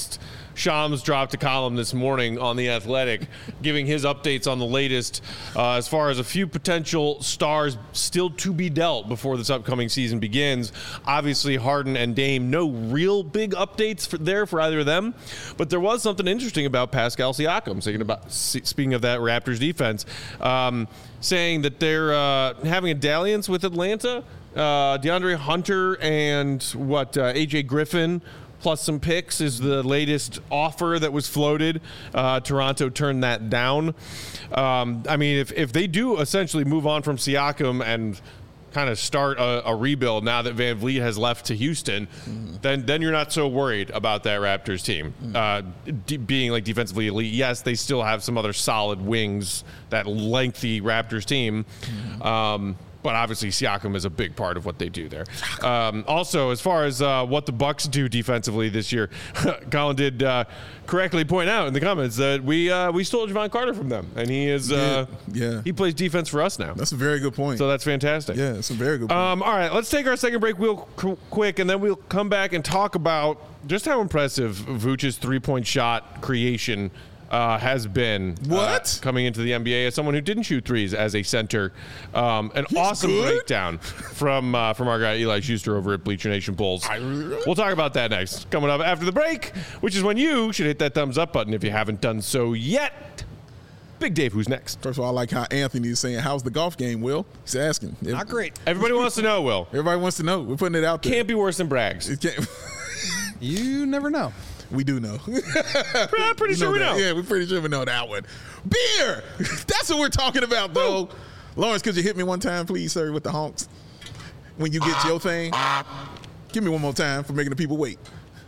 Shams dropped a column this morning on The Athletic, giving his updates on the latest as far as a few potential stars still to be dealt before this upcoming season begins. Obviously, Harden and Dame, no real big updates for either of them, but there was something interesting about Pascal Siakam, speaking of that Raptors defense, saying that they're having a dalliance with Atlanta. DeAndre Hunter and AJ Griffin plus some picks is the latest offer that was floated. Toronto turned that down. I mean, if they do essentially move on from Siakam and kind of start a rebuild now that Van Vliet has left to Houston, then you're not so worried about that Raptors team being like defensively elite. Yes, they still have some other solid wings, that lengthy Raptors team. But obviously, Siakam is a big part of what they do there. Also, as far as what the Bucks do defensively this year, Colin did correctly point out in the comments that we stole Javon Carter from them, and he is he plays defense for us now.
That's a very good point.
So that's fantastic.
Yeah, that's a very good point.
All right, let's take our second break real quick, and then we'll come back and talk about just how impressive Vooch's three-point shot creation has been coming into the NBA as someone who didn't shoot threes as a center. He's awesome breakdown from our guy Eli Schuster over at Bleacher Nation Bulls. We'll talk about that next. Coming up after the break, which is when you should hit that thumbs up button if you haven't done so yet. Big Dave, who's next?
First of all, I like how Anthony is saying, how's the golf game, Will? He's asking.
Not great.
Everybody wants to know, Will.
Everybody wants to know. We're putting it out there.
Can't be worse than Bragg's.
It can't.
You never know.
We do know.
I'm pretty sure we know.
Yeah, we're pretty sure we know that one. Beer! That's what we're talking about, though. Lawrence, could you hit me one time, please, sir, with the honks? When you get your thing. Give me one more time for making the people wait.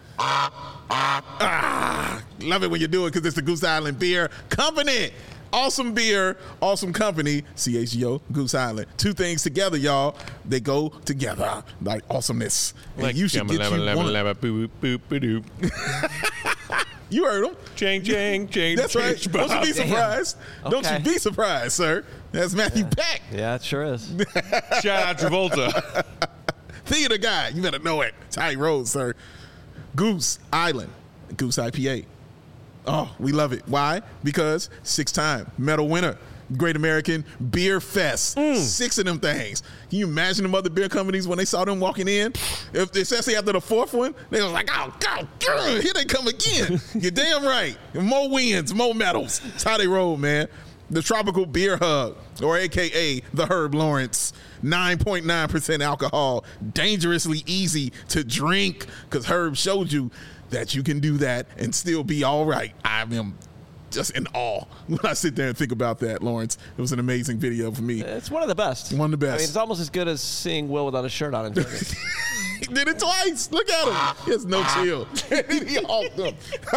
Love it when you do it because it's the Goose Island Beer Company. Awesome beer, awesome company, CHGO, Goose Island. Two things together, y'all. They go together like awesomeness. And
like
you should get you one. You heard them.
Chang, chang, chang.
That's right. Don't you be surprised.
Okay.
Don't you be surprised, sir. That's Matthew Peck.
Yeah, it sure is.
Shout out Travolta.
Theater guy. You better know it. Ty Rose, sir. Goose Island. Goose IPA. Oh, we love it. Why? Because 6-time medal winner. Great American Beer Fest. 6 of them things. Can you imagine them other beer companies when they saw them walking in? Especially after the 4th one, they were like, oh, God, here they come again. You're damn right. More wins, more medals. That's how they roll, man. The Tropical Beer Hub, or AKA the Herb Lawrence. 9.9% alcohol. Dangerously easy to drink because Herb showed you that you can do that and still be all right. I am just in awe when I sit there and think about that, Lawrence. It was an amazing video for me.
It's one of the best.
One of the best.
I mean, it's almost as good as seeing Will without a shirt on in Vegas.
He did it twice. Look at him. He has no chill. He hulked him.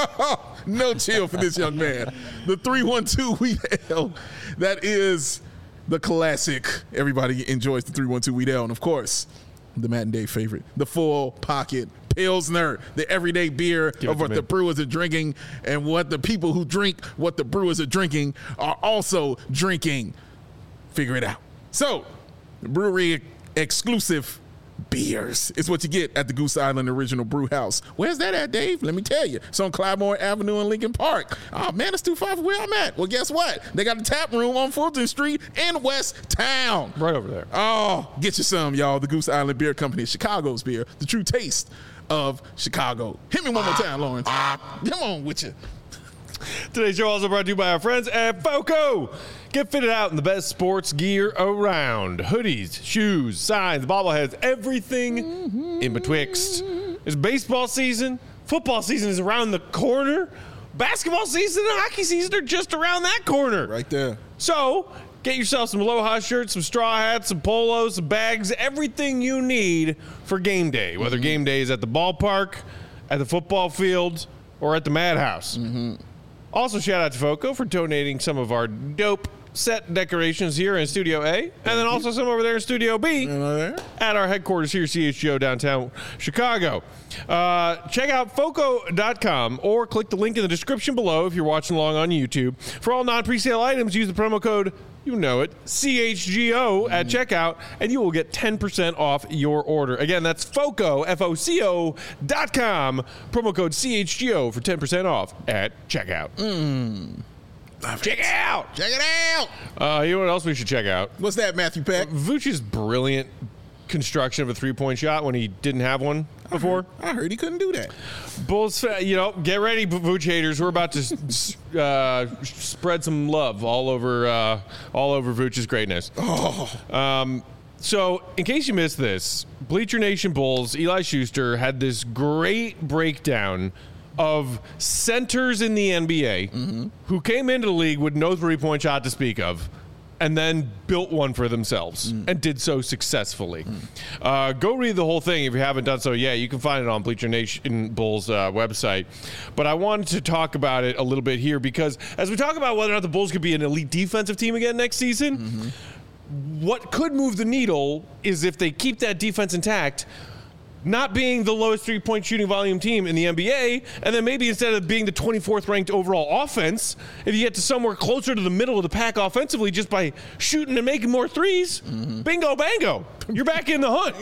No chill for this young man. The 312 Wheat Ale. That is the classic. Everybody enjoys the 312 Wheat Ale. And, of course, the Matt and Dave favorite, the Full Pocket Pilsner, the everyday beer of what the brewers are drinking and what the people who drink what the brewers are drinking are also drinking. Figure it out. So, the brewery exclusive beers is what you get at the Goose Island Original Brew House. Where's that at, Dave? Let me tell you. It's on Clybourne Avenue in Lincoln Park. Oh, man, it's too far from where I'm at. Well, guess what? They got a tap room on Fulton Street in West Town.
Right over there.
Oh, get you some, y'all. The Goose Island Beer Company, Chicago's beer, the true taste of Chicago. Hit me one more time, Lawrence. Come on with you.
Today's show also brought to you by our friends at FOCO. Get fitted out in the best sports gear around. Hoodies, shoes, signs, bobbleheads, everything in betwixt. It's baseball season. Football season is around the corner. Basketball season and hockey season are just around that corner.
Right there.
So get yourself some Aloha shirts, some straw hats, some polos, some bags, everything you need for game day. Whether game day is at the ballpark, at the football field, or at the Madhouse. Also, shout out to FOCO for donating some of our dope set decorations here in Studio A, and then also some over there in Studio B at our headquarters here, CHGO, downtown Chicago. Check out FOCO.com or click the link in the description below if you're watching along on YouTube. For all non-presale items, use the promo code You know it. CHGO at checkout, and you will get 10% off your order. Again, that's FOCO, FOCO.com. Promo code CHGO for 10% off at checkout. Check it out.
Check it out.
You know what else we should check out?
What's that, Matthew Peck?
Vooch's brilliant construction of a three-point shot when he didn't have one before.
I heard he couldn't do that.
Bulls, get ready, Vooch haters. We're about to spread some love all over Vooch's greatness. So, in case you missed this, Bleacher Nation Bulls, Eli Schuster had this great breakdown of centers in the NBA who came into the league with no three-point shot to speak of, and then built one for themselves and did so successfully. Go read the whole thing if you haven't done so yet. You can find it on Bleacher Nation Bulls website. But I wanted to talk about it a little bit here because as we talk about whether or not the Bulls could be an elite defensive team again next season, what could move the needle is if they keep that defense intact, not being the lowest three-point shooting volume team in the NBA, and then maybe instead of being the 24th ranked overall offense, if you get to somewhere closer to the middle of the pack offensively just by shooting and making more threes, bingo, bango, you're back in the hunt.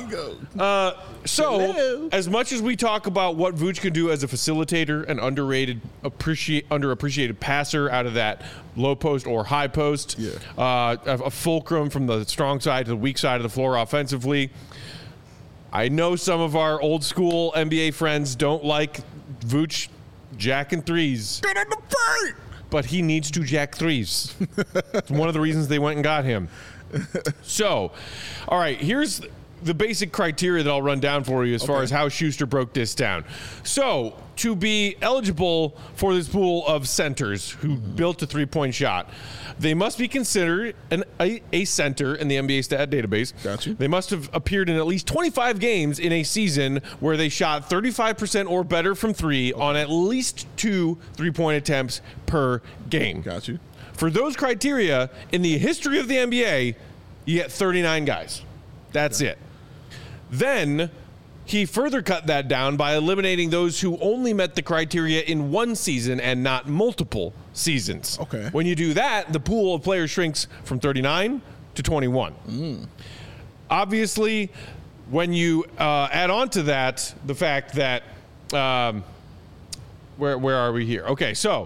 So, as much as we talk about what Vooch can do as a facilitator, an underrated, underappreciated passer out of that low post or high post, a fulcrum from the strong side to the weak side of the floor offensively, I know some of our old school NBA friends don't like Vooch jacking threes.
Get in the paint!
But he needs to jack threes. It's one of the reasons they went and got him. So, all right, here's the basic criteria that I'll run down for you as far as how Schuster broke this down. So, to be eligible for this pool of centers who built a three-point shot, they must be considered a center in the NBA stat database.
Gotcha.
They must have appeared in at least 25 games in a season where they shot 35% or better from three on at least 2 three-point attempts per game.
Got you.
For those criteria, in the history of the NBA, you get 39 guys. That's it. Then he further cut that down by eliminating those who only met the criteria in one season and not multiple seasons.
Okay.
When you do that, the pool of players shrinks from 39 to 21. Obviously, when you add on to that the fact that where are we here? Okay, so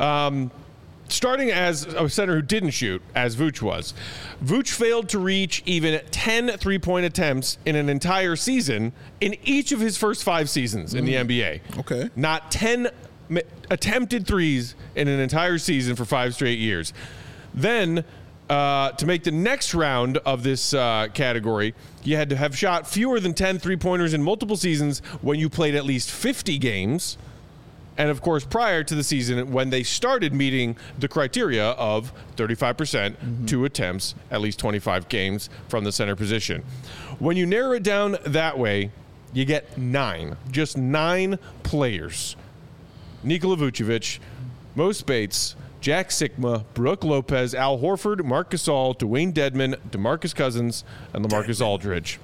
starting as a center who didn't shoot, as Vooch was, Vooch failed to reach even 10 three-point attempts in an entire season in each of his first 5 seasons in the NBA.
Okay.
Not 10 attempted threes in an entire season for 5 straight years. Then, to make the next round of this category, you had to have shot fewer than 10 three-pointers in multiple seasons when you played at least 50 games. And, of course, prior to the season when they started meeting the criteria of 35%, 2 attempts, at least 25 games from the center position. When you narrow it down that way, you get 9. Just 9 players. Nikola Vucevic, Mo Spates, Jack Sikma, Brook Lopez, Al Horford, Marc Gasol, Dwayne Dedmon, DeMarcus Cousins, and LaMarcus Aldridge.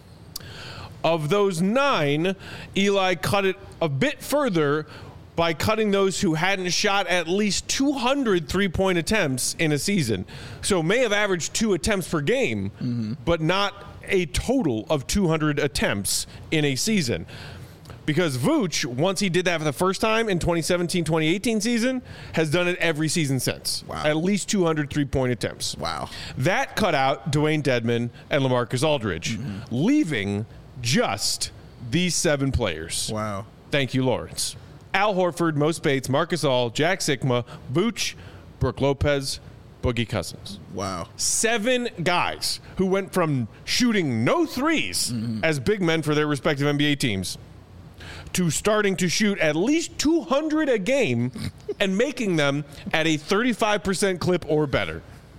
Of those 9, Eli cut it a bit further by cutting those who hadn't shot at least 200 three-point attempts in a season. So may have averaged 2 attempts per game, but not a total of 200 attempts in a season. Because Vooch, once he did that for the first time in 2017-2018 season, has done it every season since.
Wow.
At least 200 three-point attempts.
Wow.
That cut out Dwayne Dedmon and LaMarcus Aldridge, leaving just these 7 players.
Wow.
Thank you, Lawrence. Al Horford, Mo Spates, Marc Gasol, Jack Sikma, Vooch, Brook Lopez, Boogie Cousins.
Wow.
7 guys who went from shooting no threes as big men for their respective NBA teams to starting to shoot at least 200 a game and making them at a 35% clip or better.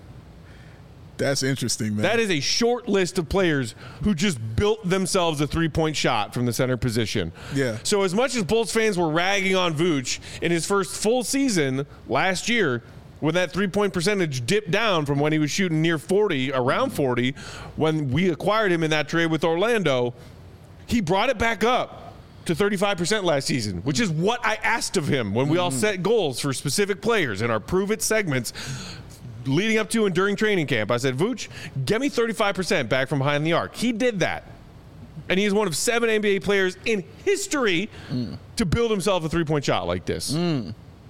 That's interesting, man.
That is a short list of players who just built themselves a three-point shot from the center position.
Yeah.
So as much as Bulls fans were ragging on Vooch in his first full season last year, when that three-point percentage dipped down from when he was shooting near 40, around 40, when we acquired him in that trade with Orlando, he brought it back up to 35% last season, which is what I asked of him when we all set goals for specific players in our Prove It segments. leading up to and during training camp, I said, Vooch, get me 35% back from behind the arc. He did that. And he's one of 7 NBA players in history to build himself a three-point shot like this.
I'm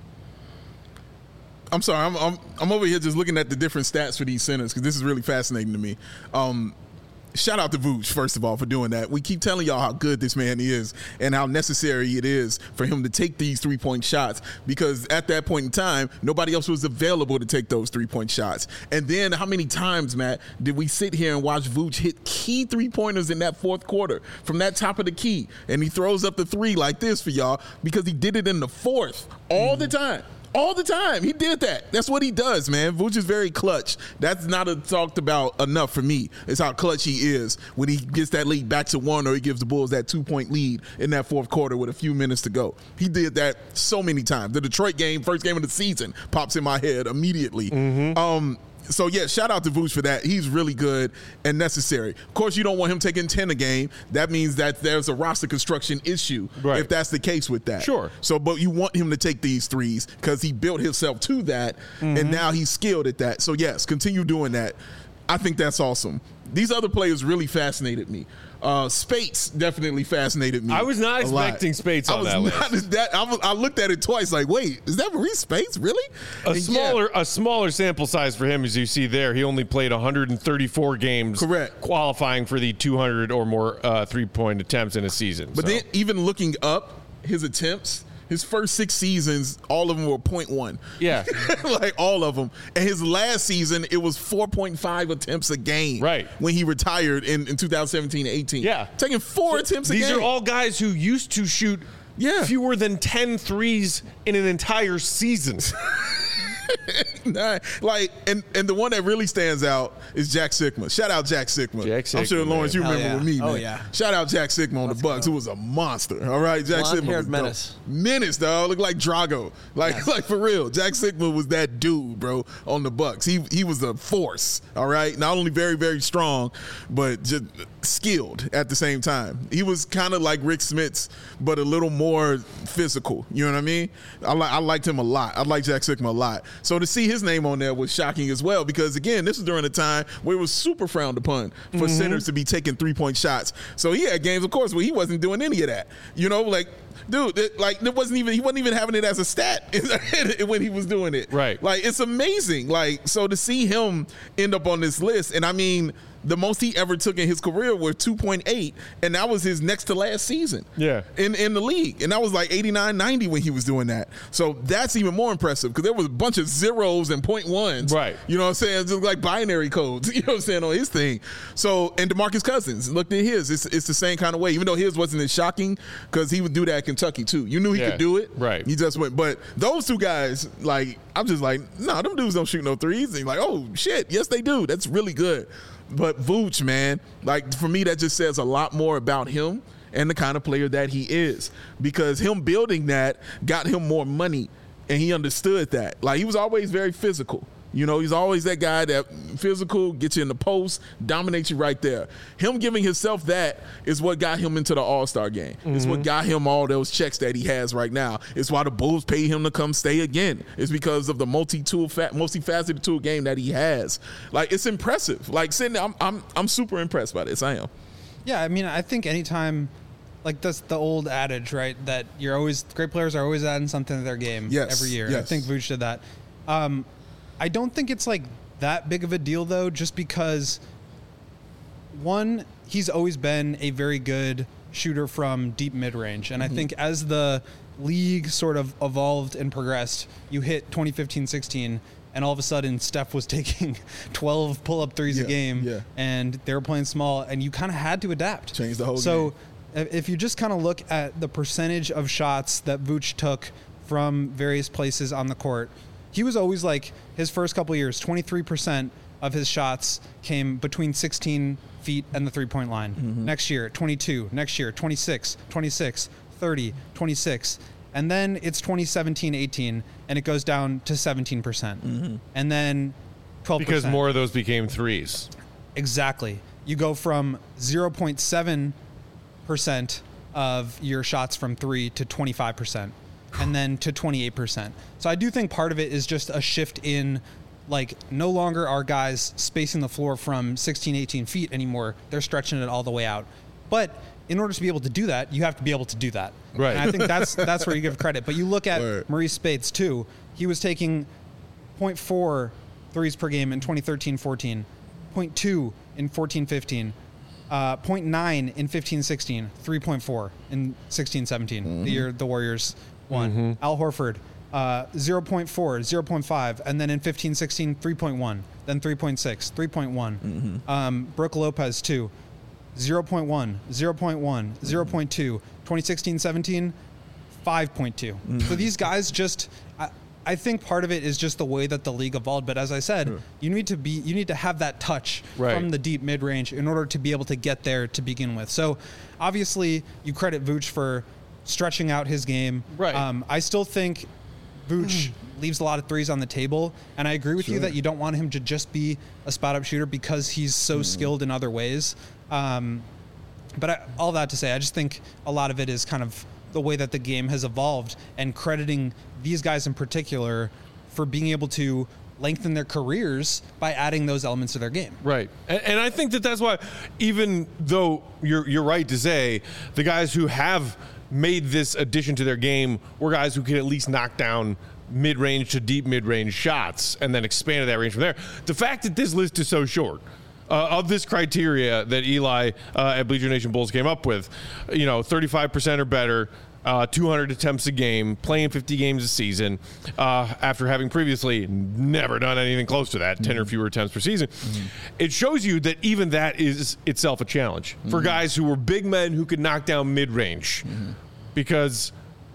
sorry, I'm over here just looking at the different stats for these centers because this is really fascinating to me. Shout out to Vooch, first of all, for doing that. We keep telling y'all how good this man is and how necessary it is for him to take these three-point shots because at that point in time, nobody else was available to take those three-point shots. And then how many times, Matt, did we sit here and watch Vooch hit key three-pointers in that fourth quarter from that top of the key? And he throws up the three like this for y'all because he did it in the fourth all the time. All the time. He did that. That's what he does, man. Vooch is very clutch. That's not talked about enough for me. It's how clutch he is when he gets that lead back to 1 or he gives the Bulls that 2-point lead in that fourth quarter with a few minutes to go. He did that so many times. The Detroit game, first game of the season, pops in my head immediately. So, yeah, shout out to Vooch for that. He's really good and necessary. Of course, you don't want him taking 10 a game. That means that there's a roster construction issue if that's the case with that.
Sure.
So, but you want him to take these threes because he built himself to that, and now he's skilled at that. So, yes, continue doing that. I think that's awesome. These other players really fascinated me. Spates definitely fascinated me.
I was not expecting Spates on that list.
I looked at it twice like, wait, is that Maurice Spates? Really?
A smaller sample size for him, as you see there. He only played 134 games.
Correct.
Qualifying for the 200 or more three-point attempts in a season.
But then even looking up his attempts, his first 6 seasons, all of them were 0.1.
Yeah.
Like all of them. And his last season, it was 4.5 attempts a game.
Right.
When he retired in 2017-18.
Yeah.
Taking 4 attempts a game.
These are all guys who used to shoot fewer than 10 threes in an entire season.
Like, and the one that really stands out is Jack Sikma. Shout out Jack Sikma. I'm sure, Lawrence, you remember with me, man.
Oh, yeah.
Shout out Jack Sikma on the Bucks, who was a monster. All right, Jack Sikma was
menace.
Menace, dog. Looked like Drago. Like for real. Jack Sikma was that dude, bro, on the Bucks. He was a force. All right, not only very, very strong, but just skilled at the same time. He was kind of like Rick Smits, but a little more physical. You know what I mean? I liked him a lot. I like Jack Sikma a lot. So to see his name on there was shocking as well because, again, this was during a time where it was super frowned upon for centers to be taking three-point shots. So he had games, of course, where he wasn't doing any of that. You know, like, dude, he wasn't even having it as a stat when he was doing it.
Right.
Like, it's amazing. Like, so to see him end up on this list, and I mean, the most he ever took in his career was 2.8, and that was his next to last season in the league. And that was like 89, 90 when he was doing that. So that's even more impressive because there was a bunch of zeros and 0.1s.
Right.
You know what I'm saying? Just like binary codes, you know what I'm saying, on his thing. So, and DeMarcus Cousins, looked at his. It's the same kind of way, even though his wasn't as shocking because he would do that at Kentucky too. You knew he could do it.
Right.
He just went. But those two guys, like, I'm just like, nah, them dudes don't shoot no threes. And you're like, oh, shit, yes, they do. That's really good. But Vooch, man, like, for me, that just says a lot more about him and the kind of player that he is. Because him building that got him more money, and he understood that. Like, he was always very physical. You know, he's always that guy that physical, gets you in the post, dominates you right there. Him giving himself that is what got him into the All-Star game. It's what got him all those checks that he has right now. It's why the Bulls pay him to come stay again. It's because of the multifaceted tool game that he has. Like, it's impressive. Like, sitting there, I'm super impressed by this. I am.
Yeah, I mean, I think anytime, like, that's the old adage, right? That great players are always adding something to their game every year.
Yes.
I think Vooch did that. I don't think it's like that big of a deal though, just because one, he's always been a very good shooter from deep mid-range. And I think as the league sort of evolved and progressed, you hit 2015-16 and all of a sudden Steph was taking 12 pull-up threes a game and they were playing small and you kind of had to adapt.
Change the whole game.
So if you just kind of look at the percentage of shots that Vooch took from various places on the court, he was always like, his first couple of years, 23% of his shots came between 16 feet and the three-point line. Next year, 22. Next year, 26, 26, 30, 26. And then it's 2017-18, and it goes down to 17%. And then 12%.
Because more of those became threes.
Exactly. You go from 0.7% of your shots from three to 25%. And then to 28%. So I do think part of it is just a shift in like no longer are guys spacing the floor from 16, 18 feet anymore. They're stretching it all the way out. But in order to be able to do that, you have to be able to do that.
Right.
And I think that's where you give credit. But you look at Maurice Spades too. He was taking 0.4 threes per game in 2013-14, 0.2 in 14-15, 0.9 in 15-16, 3.4 in 16-17, the year the Warriors won. Al Horford, 0.4, 0.5, and then in 15-16, 3.1, then 3.6, 3.1. Brook Lopez, too, 0.1, 0.1, 0.2, 2016-17, 5.2. So these guys just... I think part of it is just the way that the league evolved. But as I said, you need to have that touch from the deep mid range in order to be able to get there to begin with. So obviously you credit Vooch for stretching out his game.
Right.
I still think Vooch leaves a lot of threes on the table, and I agree with you that you don't want him to just be a spot up shooter because he's so skilled in other ways. But all that to say, I just think a lot of it is kind of the way that the game has evolved, and crediting these guys in particular for being able to lengthen their careers by adding those elements to their game.
Right. And I think that's why, even though you're right to say the guys who have made this addition to their game were guys who could at least knock down mid-range to deep mid-range shots and then expanded that range from there. The fact that this list is so short, of this criteria that Eli at Bleacher Nation Bulls came up with, 35% or better, 200 attempts a game, playing 50 games a season, after having previously never done anything close to that, 10 or fewer attempts per season. It shows you that even that is itself a challenge for guys who were big men who could knock down mid-range, because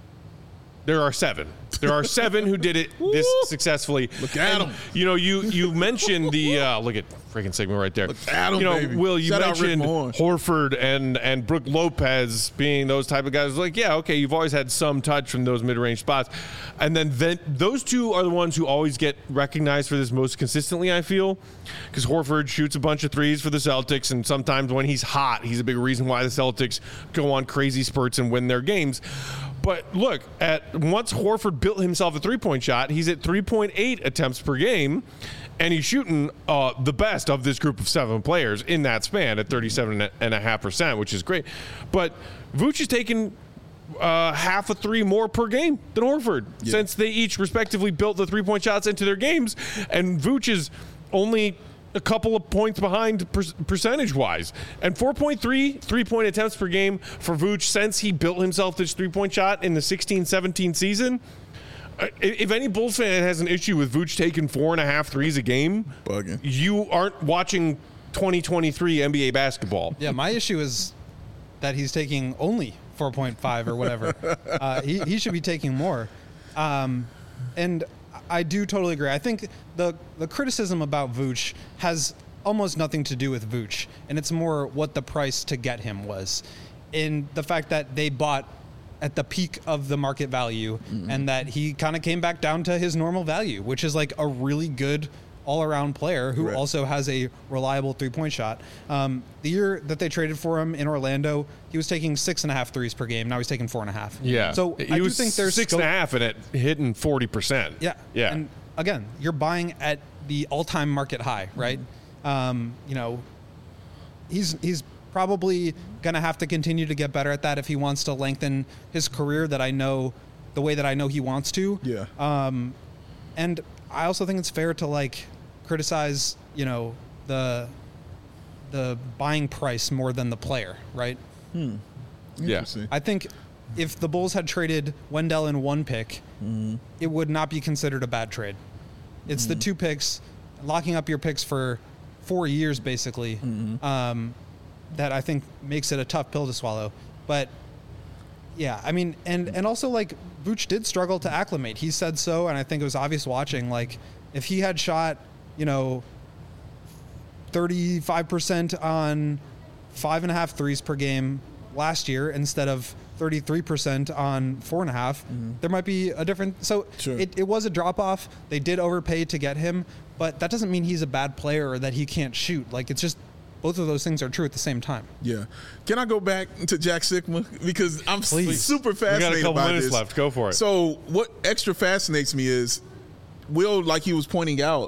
there are 7. There are 7 who did it this successfully.
Look at them.
You mentioned the look at freaking Sigma right there.
Look at 'em, baby.
Will, you
Shout out Rick
mentioned
Mahorn.
Horford and Brook Lopez being those type of guys. Like, yeah, okay, you've always had some touch from those mid-range spots, and then those two are the ones who always get recognized for this most consistently, I feel, because Horford shoots a bunch of threes for the Celtics, and sometimes when he's hot, he's a big reason why the Celtics go on crazy spurts and win their games. But look, once Horford built himself a three-point shot, he's at 3.8 attempts per game, and he's shooting the best of this group of 7 players in that span at 37.5%, which is great. But Vooch has taken half a three more per game than Horford since they each respectively built the three-point shots into their games, and Vooch is only a couple of points behind percentage-wise. And 4.3 three-point attempts per game for Vooch since he built himself this three-point shot in the 16-17 season. If any Bulls fan has an issue with Vooch taking 4.5 threes a game,
bugging.
You aren't watching 2023 NBA basketball.
Yeah, my issue is that he's taking only 4.5 or whatever. He should be taking more. And I do totally agree. I think the criticism about Vooch has almost nothing to do with Vooch, and it's more what the price to get him was, in the fact that they bought at the peak of the market value, and that he kind of came back down to his normal value, which is like a really good all-around player who also has a reliable three-point shot. The year that they traded for him in Orlando, he was taking 6.5 threes per game. Now he's taking 4.5.
Yeah.
So
he
I do
was
think there's
6.5 and it hitting 40%.
Yeah.
Yeah.
And again, you're buying at the all-time market high, right? He's probably going to have to continue to get better at that if he wants to lengthen his career the way that I know he wants to.
Yeah.
And I also think it's fair to criticize, the buying price more than the player, right?
Interesting.
I think if the Bulls had traded Wendell in 1 pick, it would not be considered a bad trade. It's the 2 picks, locking up your picks for 4 years, basically, that I think makes it a tough pill to swallow. But yeah, I mean, and also Vooch did struggle to acclimate. He said so, and I think it was obvious watching. If he had shot, 35% on 5.5 threes per game last year instead of 33% on 4.5, there might be a different. So it was a drop off. They did overpay to get him, but that doesn't mean he's a bad player or that he can't shoot. It's just both of those things are true at the same time.
Yeah. Can I go back to Jack Sikma? Because I'm super fascinated
We got a couple
by
minutes
this.
left. Go for it.
So what extra fascinates me is, Will, like he was pointing out,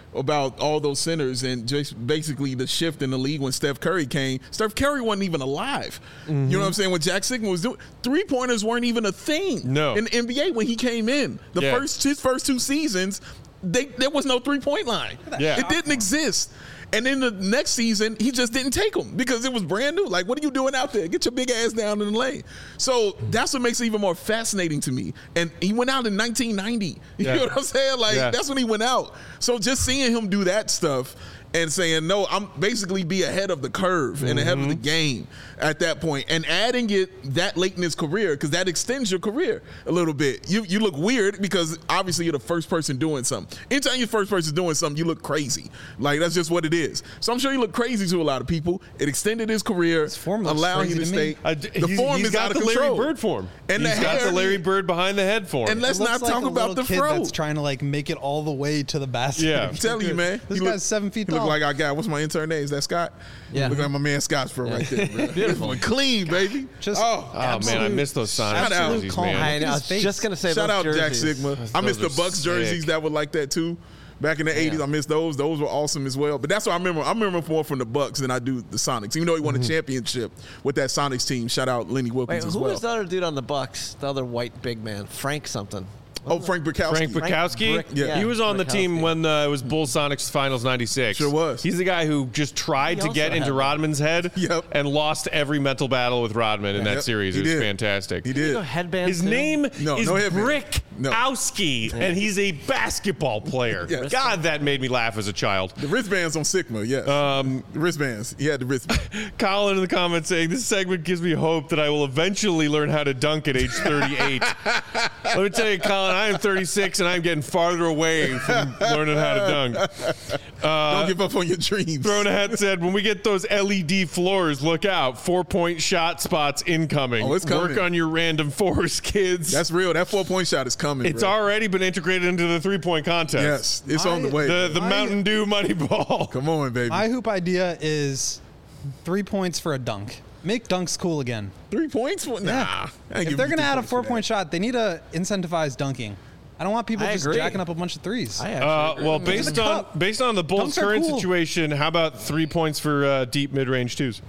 about all those centers and just basically the shift in the league when Steph Curry came. Steph Curry wasn't even alive. You know what I'm saying? When Jack Sigma was doing, 3-pointers weren't even a thing in the NBA when he came in. His first 2 seasons, there was no 3-point line. It didn't exist. And then the next season, he just didn't take them because it was brand new. Like, what are you doing out there? Get your big ass down in the lane. So that's what makes it even more fascinating to me. And he went out in 1990. You know what I'm saying? Like, that's when he went out. So just seeing him do that stuff and saying, no, I'm basically be ahead of the curve and ahead of the game at that point, and adding it that late in his career, because that extends your career a little bit. You look weird because obviously you're the first person doing something. Anytime you're the first person doing something, you look crazy. Like, that's just what it is. So I'm sure you look crazy to a lot of people. It extended his career, allowing him to stay. The form is out of control.
He's got the Larry Bird form. And he's got the Larry Bird behind the head form.
And let's not talk about the fro.
That's trying to like make it all the way to the basket.
Yeah,
I'm telling you, man.
This guy's 7 feet tall.
Look like I got, what's my intern name? Is that Scott?
Yeah.
Look like my man Scott's fro right there, bro. Beautiful. Clean, baby.
Man, I miss those Sonics jerseys, man.
I was just going to say
shout
those
out
jerseys.
Jack Sigma. I miss the Bucks jerseys that were like that too. Back in the 80s, I miss those. Those were awesome as well. But that's what I remember. I remember more from the Bucks than I do the Sonics. Even though he won a championship with that Sonics team. Shout out Lenny Wilkins as well.
Who was the other dude on the Bucks? The other white big man, Frank something.
Frank Bukowski.
Frank Bukowski? He was on the team when it was Bulls Sonics Finals 96.
Sure was.
He's the guy who just tried to get into Rodman's head and lost every mental battle with Rodman in that series. It was fantastic.
He did.
His name is Brick
No.
Owski, and he's a basketball player.
Yes.
God, that made me laugh as a child.
The wristbands on Sigma, yes. The wristbands. He had the wristbands.
Colin in the comments saying, this segment gives me hope that I will eventually learn how to dunk at age 38. Let me tell you, Colin, I am 36, and I'm getting farther away from learning how to dunk.
Don't give up on your dreams.
Throwing a Hat said, when we get those LED floors, look out. 4-point shot spots incoming.
Oh, it's coming.
Work on your random fours, kids.
That's real. That 4-point shot is coming,
It's already been integrated into the 3-point contest.
Yes, it's on the way.
The Mountain Dew money ball.
Come on, baby.
My hoop idea is 3 points for a dunk. Make dunks cool again.
3 points? Nah.
If they're going to add a 4-point shot, they need to incentivize dunking. I don't want people just jacking up a bunch of threes.
Well, based on the Bulls' current situation, how about 3 points for deep mid-range twos?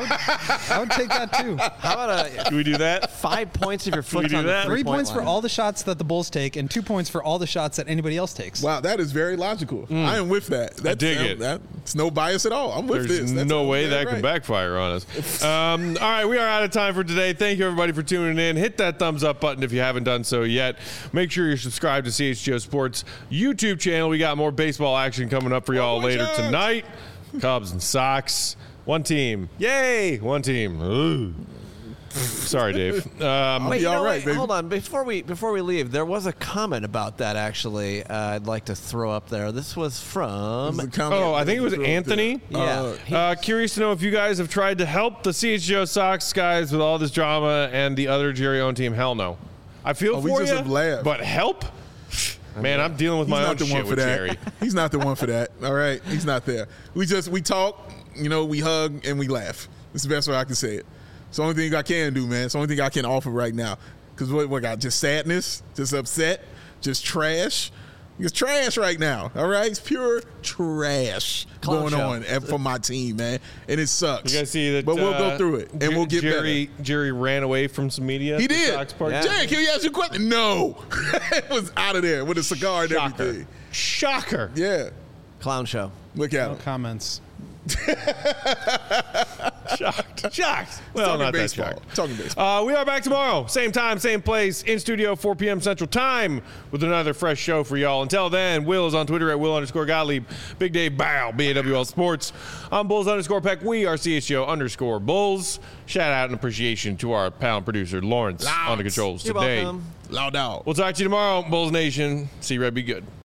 I would take that too.
How about
Can we do that?
5 points if your foot's
do
on the
that?
3 points
line.
for all the shots that the Bulls take, and 2 points for all the shots that anybody else takes.
Wow, that is very logical. I am with that.
I dig it.
That's no bias at all. I'm with
There's
this. That's
no way that
right.
could backfire on us. All right, we are out of time for today. Thank you, everybody, for tuning in. Hit that thumbs up button if you haven't done so yet. Make sure you're subscribed to CHGO Sports YouTube channel. We got more baseball action coming up for y'all later tonight. Cubs and Sox. One team. Yay! One team. Ooh. Sorry, Dave.
Wait,
all right, baby.
Hold on. Before we leave, there was a comment about that, actually. I'd like to throw up there. This was from...
I think it was Anthony.
Yeah.
Curious to know if you guys have tried to help the CHGO Sox guys with all this drama and the other Jerry Owen team. Hell no. I feel for you, but help? Man, I'm dealing with my own shit with Jerry.
He's not the one for that. All right? He's not there. We talk, we hug, and we laugh. It's the best way I can say it. It's the only thing I can do, man. It's the only thing I can offer right now. Because what got? Just sadness? Just upset? Just trash? It's trash right now, all right? It's pure trash going on for my team, man. And it sucks.
You guys see that?
But we'll go through it, and we'll get better.
Jerry ran away from some media.
He did.
Yeah.
Jerry, can we ask you a question? No. It was out of there with a cigar and everything.
Shocker.
Yeah.
Clown show.
Look at him.
Comments.
Shocked. Well, not
baseball.
that shocked.
Talking baseball.
We are back tomorrow. Same time, same place. In studio, 4 p.m. Central Time with another fresh show for y'all. Until then, Will is on Twitter at Will_Gottlieb. Big Dave Bow, BAWL Sports. I'm Bulls_Peck. We are CHGO_Bulls. Shout out and appreciation to our pal and producer, Lawrence, on the controls
You're
today.
welcome.
Loud out.
We'll talk to you tomorrow, Bulls Nation. See Red be good.